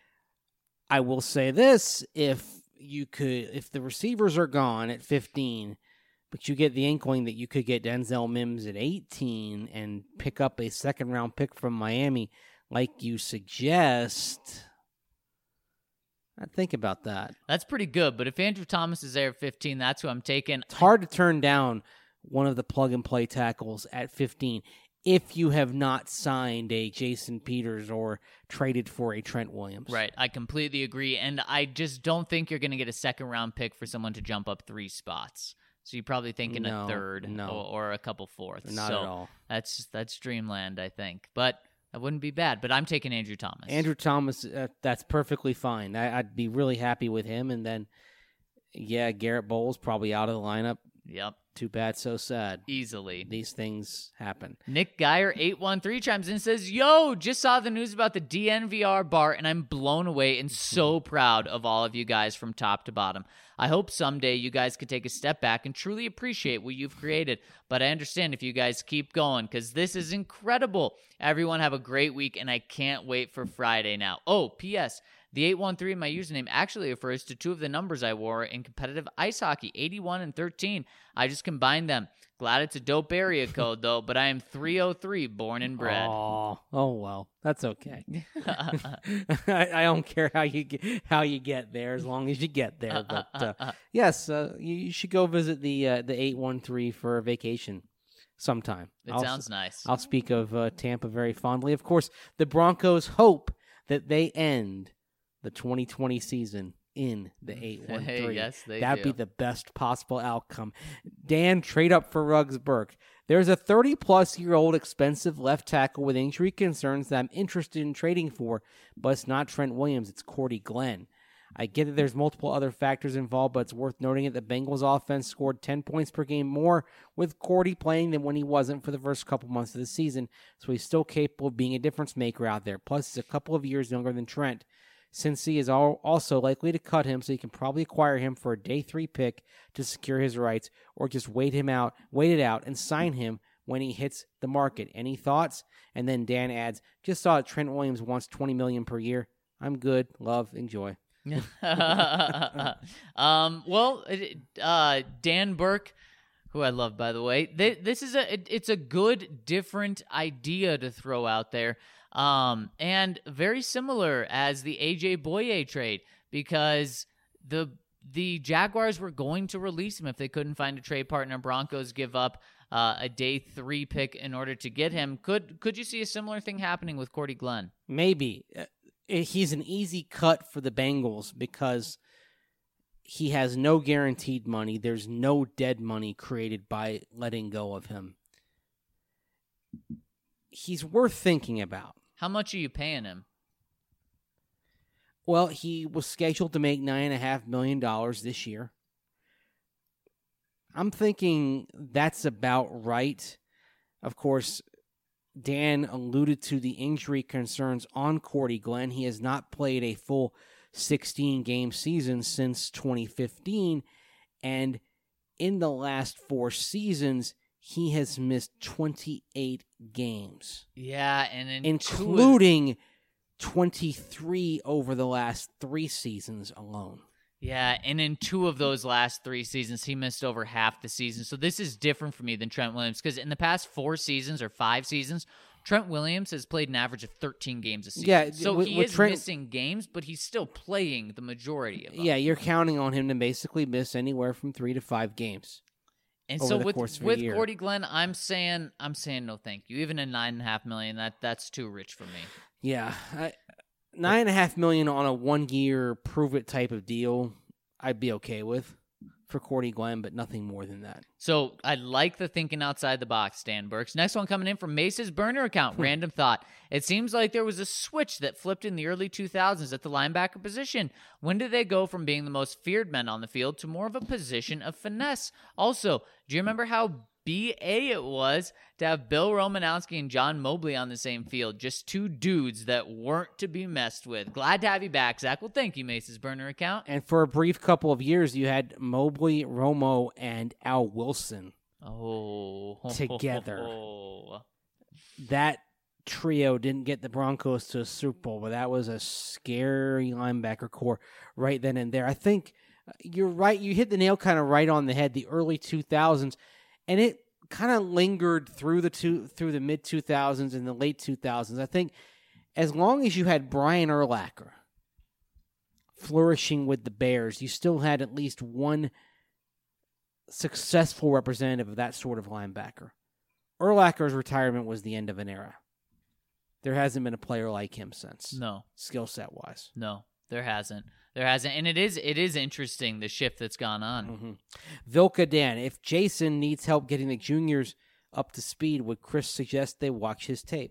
I will say this, if the receivers are gone at 15, but you get the inkling that you could get Denzel Mims at 18 and pick up a second-round pick from Miami like you suggest, I'd think about that. That's pretty good, but if Andrew Thomas is there at 15, that's who I'm taking. It's hard to turn down one of the plug-and-play tackles at 15 if you have not signed a Jason Peters or traded for a Trent Williams. Right, I completely agree, and I just don't think you're going to get a second-round pick for someone to jump up 3 spots. So you're probably thinking a third or a couple fourths. Not at all. That's dreamland, I think. But that wouldn't be bad. But I'm taking Andrew Thomas. Andrew Thomas, that's perfectly fine. I'd be really happy with him. And then, Garrett Bowles probably out of the lineup. Yep. Too bad, so sad. Easily. These things happen. Nick Geyer 813 chimes in and says, "Yo, just saw the news about the DNVR bar, and I'm blown away and so proud of all of you guys from top to bottom. I hope someday you guys could take a step back and truly appreciate what you've created. But I understand if you guys keep going, because this is incredible. Everyone have a great week, and I can't wait for Friday now. Oh, P.S. The 813 in my username actually refers to 2 of the numbers I wore in competitive ice hockey, 81 and 13. I just combined them. Glad it's a dope area code, though, but I am 303, born and bred." Oh well, that's okay. I don't care how you get there, as long as you get there. But yes, you should go visit the 813 for a vacation sometime. It sounds nice. I'll speak of Tampa very fondly. Of course, the Broncos hope that they end the 2020 season in the 813. Yes, they That'd do. be the best possible outcome. Dan, trade up for Ruggs Burke. There's a 30-plus-year-old expensive left tackle with injury concerns that I'm interested in trading for, but it's not Trent Williams, it's Cordy Glenn. I get that there's multiple other factors involved, but it's worth noting that the Bengals offense scored 10 points per game more with Cordy playing than when he wasn't for the first couple months of the season, so he's still capable of being a difference maker out there. Plus, he's a couple of years younger than Trent. Cincy is also likely to cut him, so you can probably acquire him for a day 3 pick to secure his rights, or just wait it out, and sign him when he hits the market. Any thoughts? And then Dan adds, "Just saw Trent Williams wants $20 million per year. I'm good. Love. Enjoy." Dan Burke, who I love, by the way, this is it's a good, different idea to throw out there. And very similar as the AJ Boye trade, because the Jaguars were going to release him if they couldn't find a trade partner. Broncos give up a day 3 pick in order to get him. Could you see a similar thing happening with Cordy Glenn? Maybe. He's an easy cut for the Bengals because he has no guaranteed money. There's no dead money created by letting go of him. He's worth thinking about. How much are you paying him? Well, he was scheduled to make $9.5 million this year. I'm thinking that's about right. Of course, Dan alluded to the injury concerns on Cordy Glenn. He has not played a full 16-game season since 2015, and in the last 4 seasons, he has missed 28 games. Yeah, and including 23 over the last 3 seasons alone. Yeah, and in 2 of those last 3 seasons, he missed over half the season. So this is different for me than Trent Williams, because in the past 4 seasons or 5 seasons, Trent Williams has played an average of 13 games a season. Yeah, so he is missing games, but he's still playing the majority of them. Yeah, you're counting on him to basically miss anywhere from 3 to 5 games. And so with Cordy Glenn, I'm saying no thank you. Even a $9.5 million, that's too rich for me. Yeah, $9.5 million on a 1-year prove it type of deal, I'd be okay with. for Cordy Glenn, but nothing more than that. So I like the thinking outside the box, Stan Burks. Next one coming in from Mace's burner account. Random thought. It seems like there was a switch that flipped in the early 2000s at the linebacker position. When did they go from being the most feared men on the field to more of a position of finesse? Also, do you remember how BA it was to have Bill Romanowski and John Mobley on the same field? Just two dudes that weren't to be messed with. Glad to have you back, Zach. Well, thank you, Mace's burner account. And for a brief couple of years, you had Mobley, Romo, and Al Wilson together. That trio didn't get the Broncos to a Super Bowl, but that was a scary linebacker core right then and there. I think you're right. You hit the nail kind of right on the head, the early 2000s, and it kind of lingered through the mid 2000s and the late 2000s. I think as long as you had Brian Urlacher flourishing with the Bears, you still had at least one successful representative of that sort of linebacker. Urlacher's retirement was the end of an era. There hasn't been a player like him since. No. Skill set wise. No, there hasn't. And it is interesting, the shift that's gone on. Mm-hmm. Vilka Dan, if Jason needs help getting the juniors up to speed, would Chris suggest they watch his tape?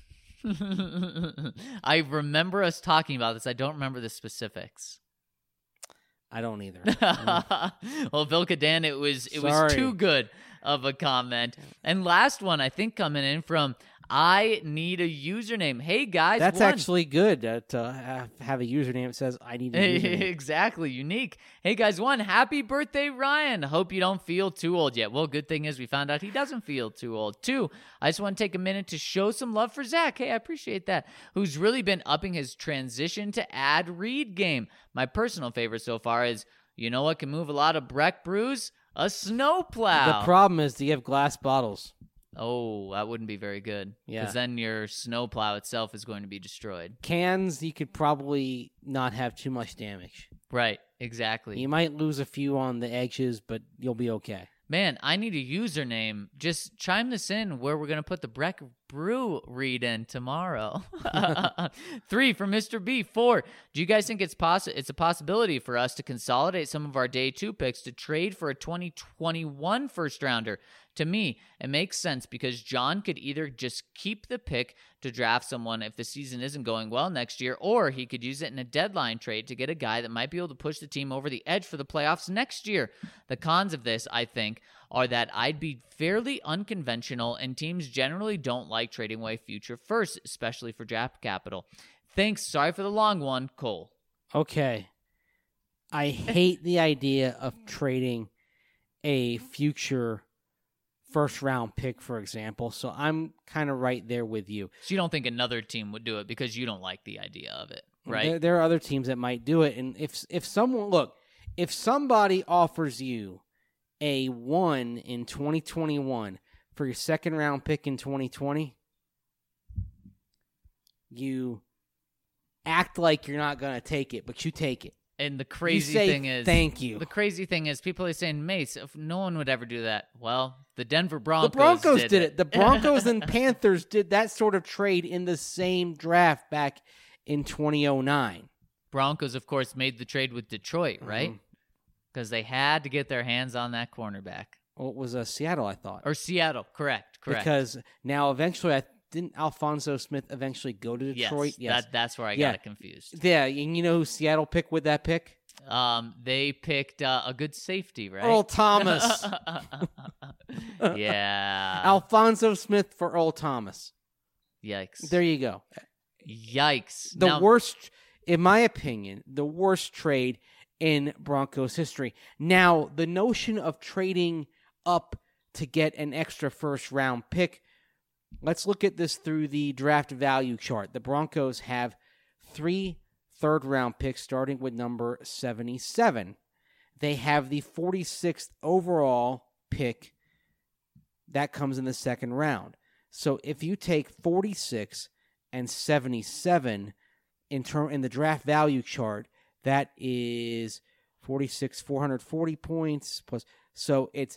I remember us talking about this. I don't remember the specifics. I don't either. Well, Vilka Dan, it was Sorry. too good of a comment. And last one, I think, coming in from I need a username. Hey, guys. That's actually good to have a username that says, I need a username. Exactly. Unique. Hey, guys. Happy birthday, Ryan. Hope you don't feel too old yet. Well, good thing is we found out he doesn't feel too old. 2, I just want to take a minute to show some love for Zach. Hey, I appreciate that. Who's really been upping his transition to ad read game. My personal favorite so far is, you know what can move a lot of Breck brews? A snowplow. The problem is, do you have glass bottles? Oh, that wouldn't be very good. Yeah. Because then your snowplow itself is going to be destroyed. Cans, you could probably not have too much damage. Right, exactly. You might lose a few on the edges, but you'll be okay. Man, I need a username. Just chime this in where we're going to put the Breck Brew read in tomorrow. 3 from Mr. B. 4, do you guys think it's a possibility for us to consolidate some of our day 2 picks to trade for a 2021 first rounder? To me, it makes sense because John could either just keep the pick to draft someone if the season isn't going well next year, or he could use it in a deadline trade to get a guy that might be able to push the team over the edge for the playoffs next year. The cons of this, I think, are that I'd be fairly unconventional, and teams generally don't like trading away future firsts, especially for draft capital. Thanks. Sorry for the long one, Cole. Okay. I hate the idea of trading a future first-round pick, for example, so I'm kind of right there with you. So you don't think another team would do it because you don't like the idea of it, right? There are other teams that might do it, and if somebody offers you a 1 in 2021 for your second-round pick in 2020, you act like you're not going to take it, but you take it. And the crazy say, thing is, thank you. The crazy thing is, people are saying, Mace, if no one would ever do that. Well, the Denver Broncos. The Broncos did it. The Broncos and Panthers did that sort of trade in the same draft back in 2009. Broncos, of course, made the trade with Detroit, right? Mm-hmm. Because they had to get their hands on that cornerback. Well, it was Seattle, I thought. Or Seattle, correct. Because now eventually, didn't Alphonso Smith eventually go to Detroit? Yes. That's where I got it confused. Yeah, and you know who Seattle picked with that pick? They picked a good safety, right? Earl Thomas. Yeah. Alphonso Smith for Earl Thomas. Yikes. There you go. Yikes. The worst, in my opinion, the worst trade in Broncos history. Now, the notion of trading up to get an extra first-round pick, let's look at this through the draft value chart. The Broncos have 3 third-round picks starting with number 77. They have the 46th overall pick that comes in the second round. So if you take 46 and 77 in the draft value chart, that is 46, 440 points plus. So it's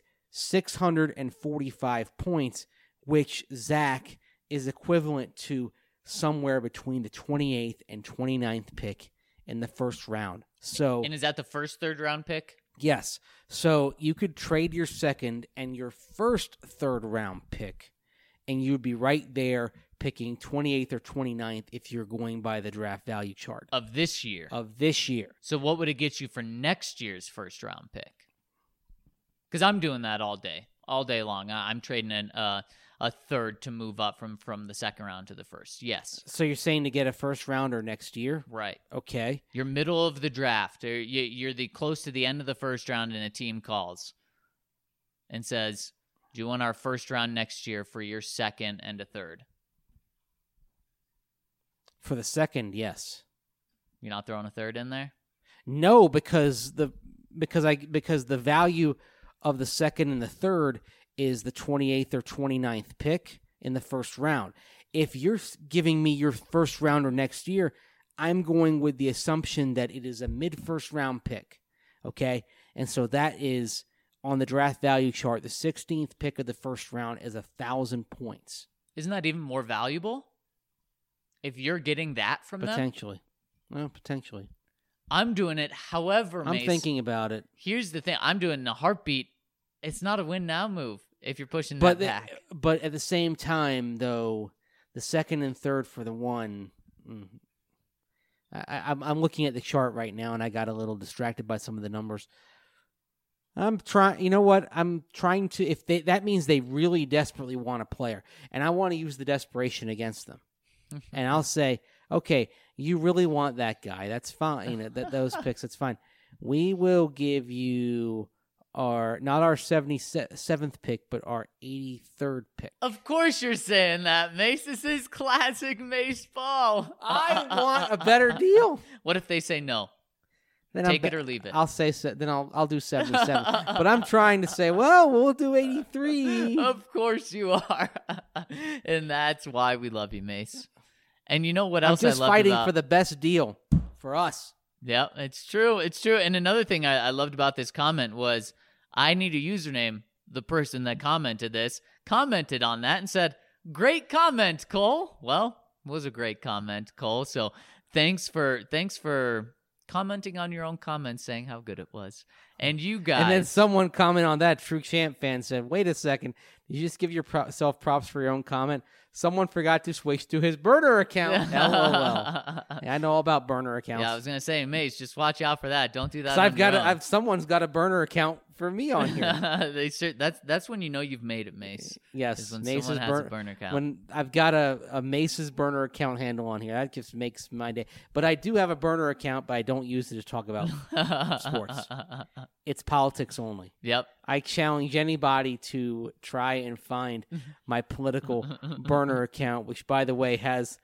645 points, which Zach is equivalent to somewhere between the 28th and 29th pick in the first round. So, and is that the first third round pick? Yes. So you could trade your second and your first third-round pick, and you'd be right there picking 28th or 29th if you're going by the draft value chart Of this year. of this year. So what would it get you for next year's first round pick? Because I'm doing that all day long. I'm trading in a third to move up from the second round to the first. Yes. So you're saying to get a first-rounder next year? Right. Okay. You're middle of the draft. Or you're the close to the end of the first round, and a team calls and says, "Do you want our first round next year for your second and a third?" For the second, yes. You're not throwing a third in there? No, because the value of the second and the third is the 28th or 29th pick in the first round. If you're giving me your first rounder next year, I'm going with the assumption that it is a mid-first round pick, okay? And so that is, on the draft value chart, the 16th pick of the first round is 1,000 points. Isn't that even more valuable? If you're getting that from them? Potentially. Well, potentially. I'm doing it however, I'm Mace. thinking about it. Here's the thing. I'm doing a heartbeat. It's not a win now move if you're pushing But that back. But at the same time, though, the second and third for the one, I'm looking at the chart right now, and I got a little distracted by some of the numbers. I'm trying. You know what? I'm trying to. If that means they really desperately want a player, and I want to use the desperation against them, and I'll say, okay, you really want that guy? That's fine. You know, those picks. That's fine. We will give you not our 77th pick, but our 83rd pick. Of course you're saying that, Mace. This is classic Mace ball. I want a better deal. What if they say no? Then Take it or leave it. I'll say then I'll do 77. But I'm trying to say, well, we'll do 83. Of course you are. And that's why we love you, Mace. And you know what I'm else just I love fighting about... for the best deal for us. Yeah, it's true. It's true. And another thing I loved about this comment was, I need a username. The person that commented this commented on that and said, "Great comment, Cole." Well, it was a great comment, Cole. So thanks for commenting on your own comments, saying how good it was. And you guys. And then someone commented on that. True Champ fan said, "Wait a second. Did you just give yourself props for your own comment? Someone forgot to switch to his burner account." LOL. Yeah, I know all about burner accounts. Yeah, I was gonna say, Mace, just watch out for that. Don't do that. So someone's got a burner account for me on here. That's when you know you've made it, Mace. Yes, Is when Mace's someone has a burner account. When I've got a Mace's burner account handle on here, that just makes my day. But I do have a burner account, but I don't use it to talk about sports. It's politics only. Yep. I challenge anybody to try and find my political burner account, which, by the way, has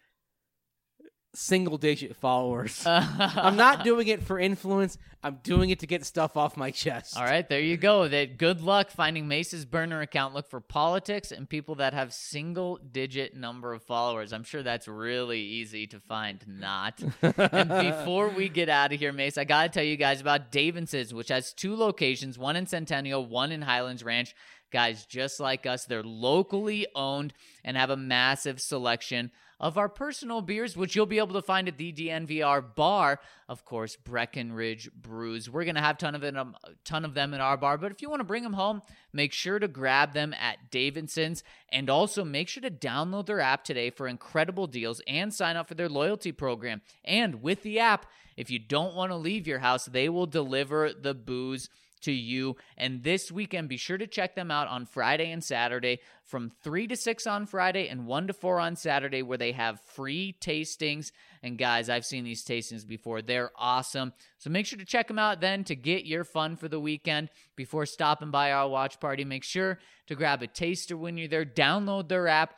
single-digit followers. I'm not doing it for influence. I'm doing it to get stuff off my chest. All right, there you go. Good luck finding Mace's burner account. Look for politics and people that have single-digit number of followers. I'm sure that's really easy to find. Not. And before we get out of here, Mace, I got to tell you guys about Davidson's, which has 2 locations, one in Centennial, one in Highlands Ranch. Guys, just like us, they're locally owned and have a massive selection of our personal beers, which you'll be able to find at the DNVR bar. Of course, Breckenridge Brews. We're going to have a ton of them in our bar, but if you want to bring them home, make sure to grab them at Davidson's, and also make sure to download their app today for incredible deals and sign up for their loyalty program. And with the app, if you don't want to leave your house, they will deliver the booze to you. And this weekend, be sure to check them out on Friday and Saturday from 3 to 6 on Friday and 1 to 4 on Saturday, where they have free tastings. And guys, I've seen these tastings before. They're awesome. So make sure to check them out then to get your fun for the weekend. Before stopping by our watch party, make sure to grab a taster when you're there. Download their app,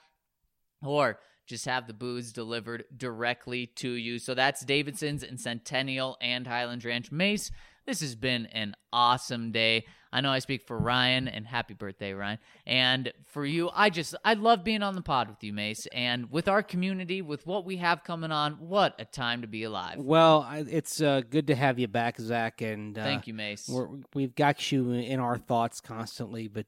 or just have the booze delivered directly to you. So that's Davidson's in Centennial and Highlands Ranch. Mace, this has been an awesome day. I know I speak for Ryan, and happy birthday, Ryan. And for you, I love being on the pod with you, Mace. And with our community, with what we have coming on, what a time to be alive. Well, it's good to have you back, Zach. And thank you, Mace. We've got you in our thoughts constantly, but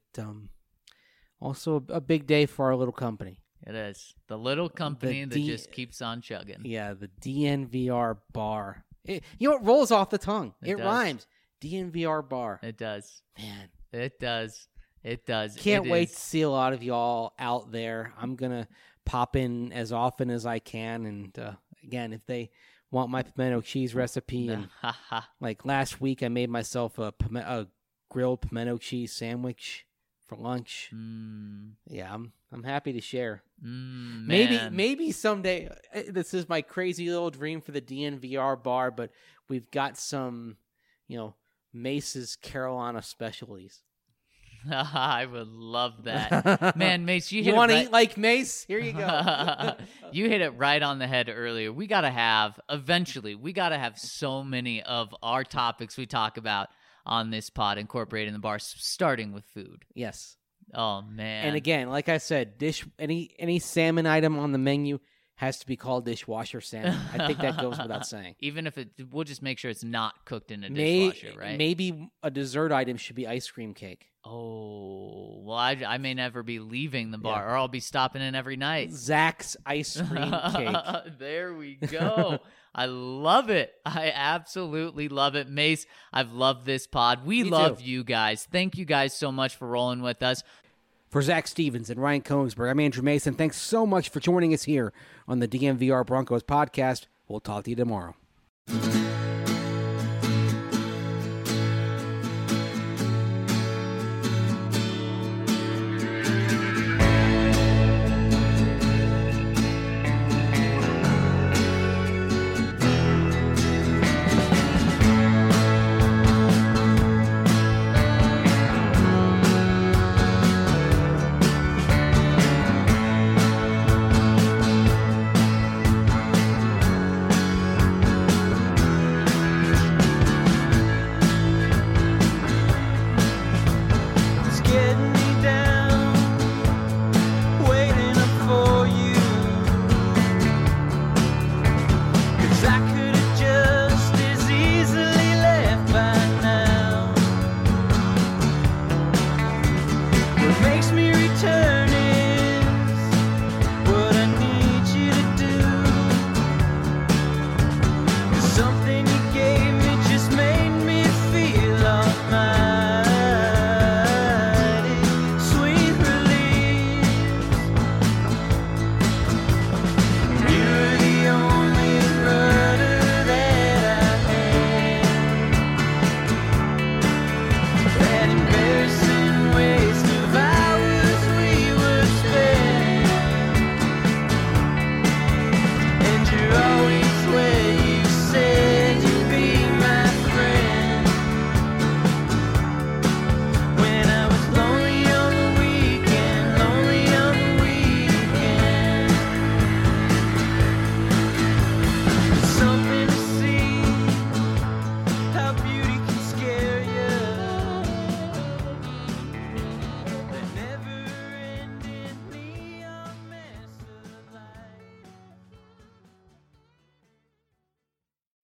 also a big day for our little company. It is. The little company that just keeps on chugging. Yeah, the DNVR bar. You know, it rolls off the tongue. It does. rhymes. DNVR bar. It does. Man. It does. It does. Can't It wait is. to see a lot of y'all out there. I'm going to pop in as often as I can. And again, if they want my pimento cheese recipe, and like last week, I made myself a grilled pimento cheese sandwich for lunch. Yeah, I'm happy to share. Maybe someday. This is my crazy little dream for the DNVR bar, but we've got some, Mace's Carolina specialties. I would love that. Man, Mace, You want to eat like Mace? Here you go. You hit it right on the head earlier. We got to have so many of our topics we talk about on this pod incorporated in the bar, starting with food. Yes. Oh, man. And again, like I said, any salmon item on the menu has to be called dishwasher salmon. I think that goes without saying. Even if we'll just make sure it's not cooked in a dishwasher, right? Maybe a dessert item should be ice cream cake. Oh, well, I may never be leaving the bar, or I'll be stopping in every night. Zach's ice cream cake. There we go. I love it. I absolutely love it. Mace, I've loved this pod. We love you guys. Thank you guys so much for rolling with us. For Zach Stevens and Ryan Kongsberg, I'm Andrew Mason. Thanks so much for joining us here on the DNVR Broncos podcast. We'll talk to you tomorrow.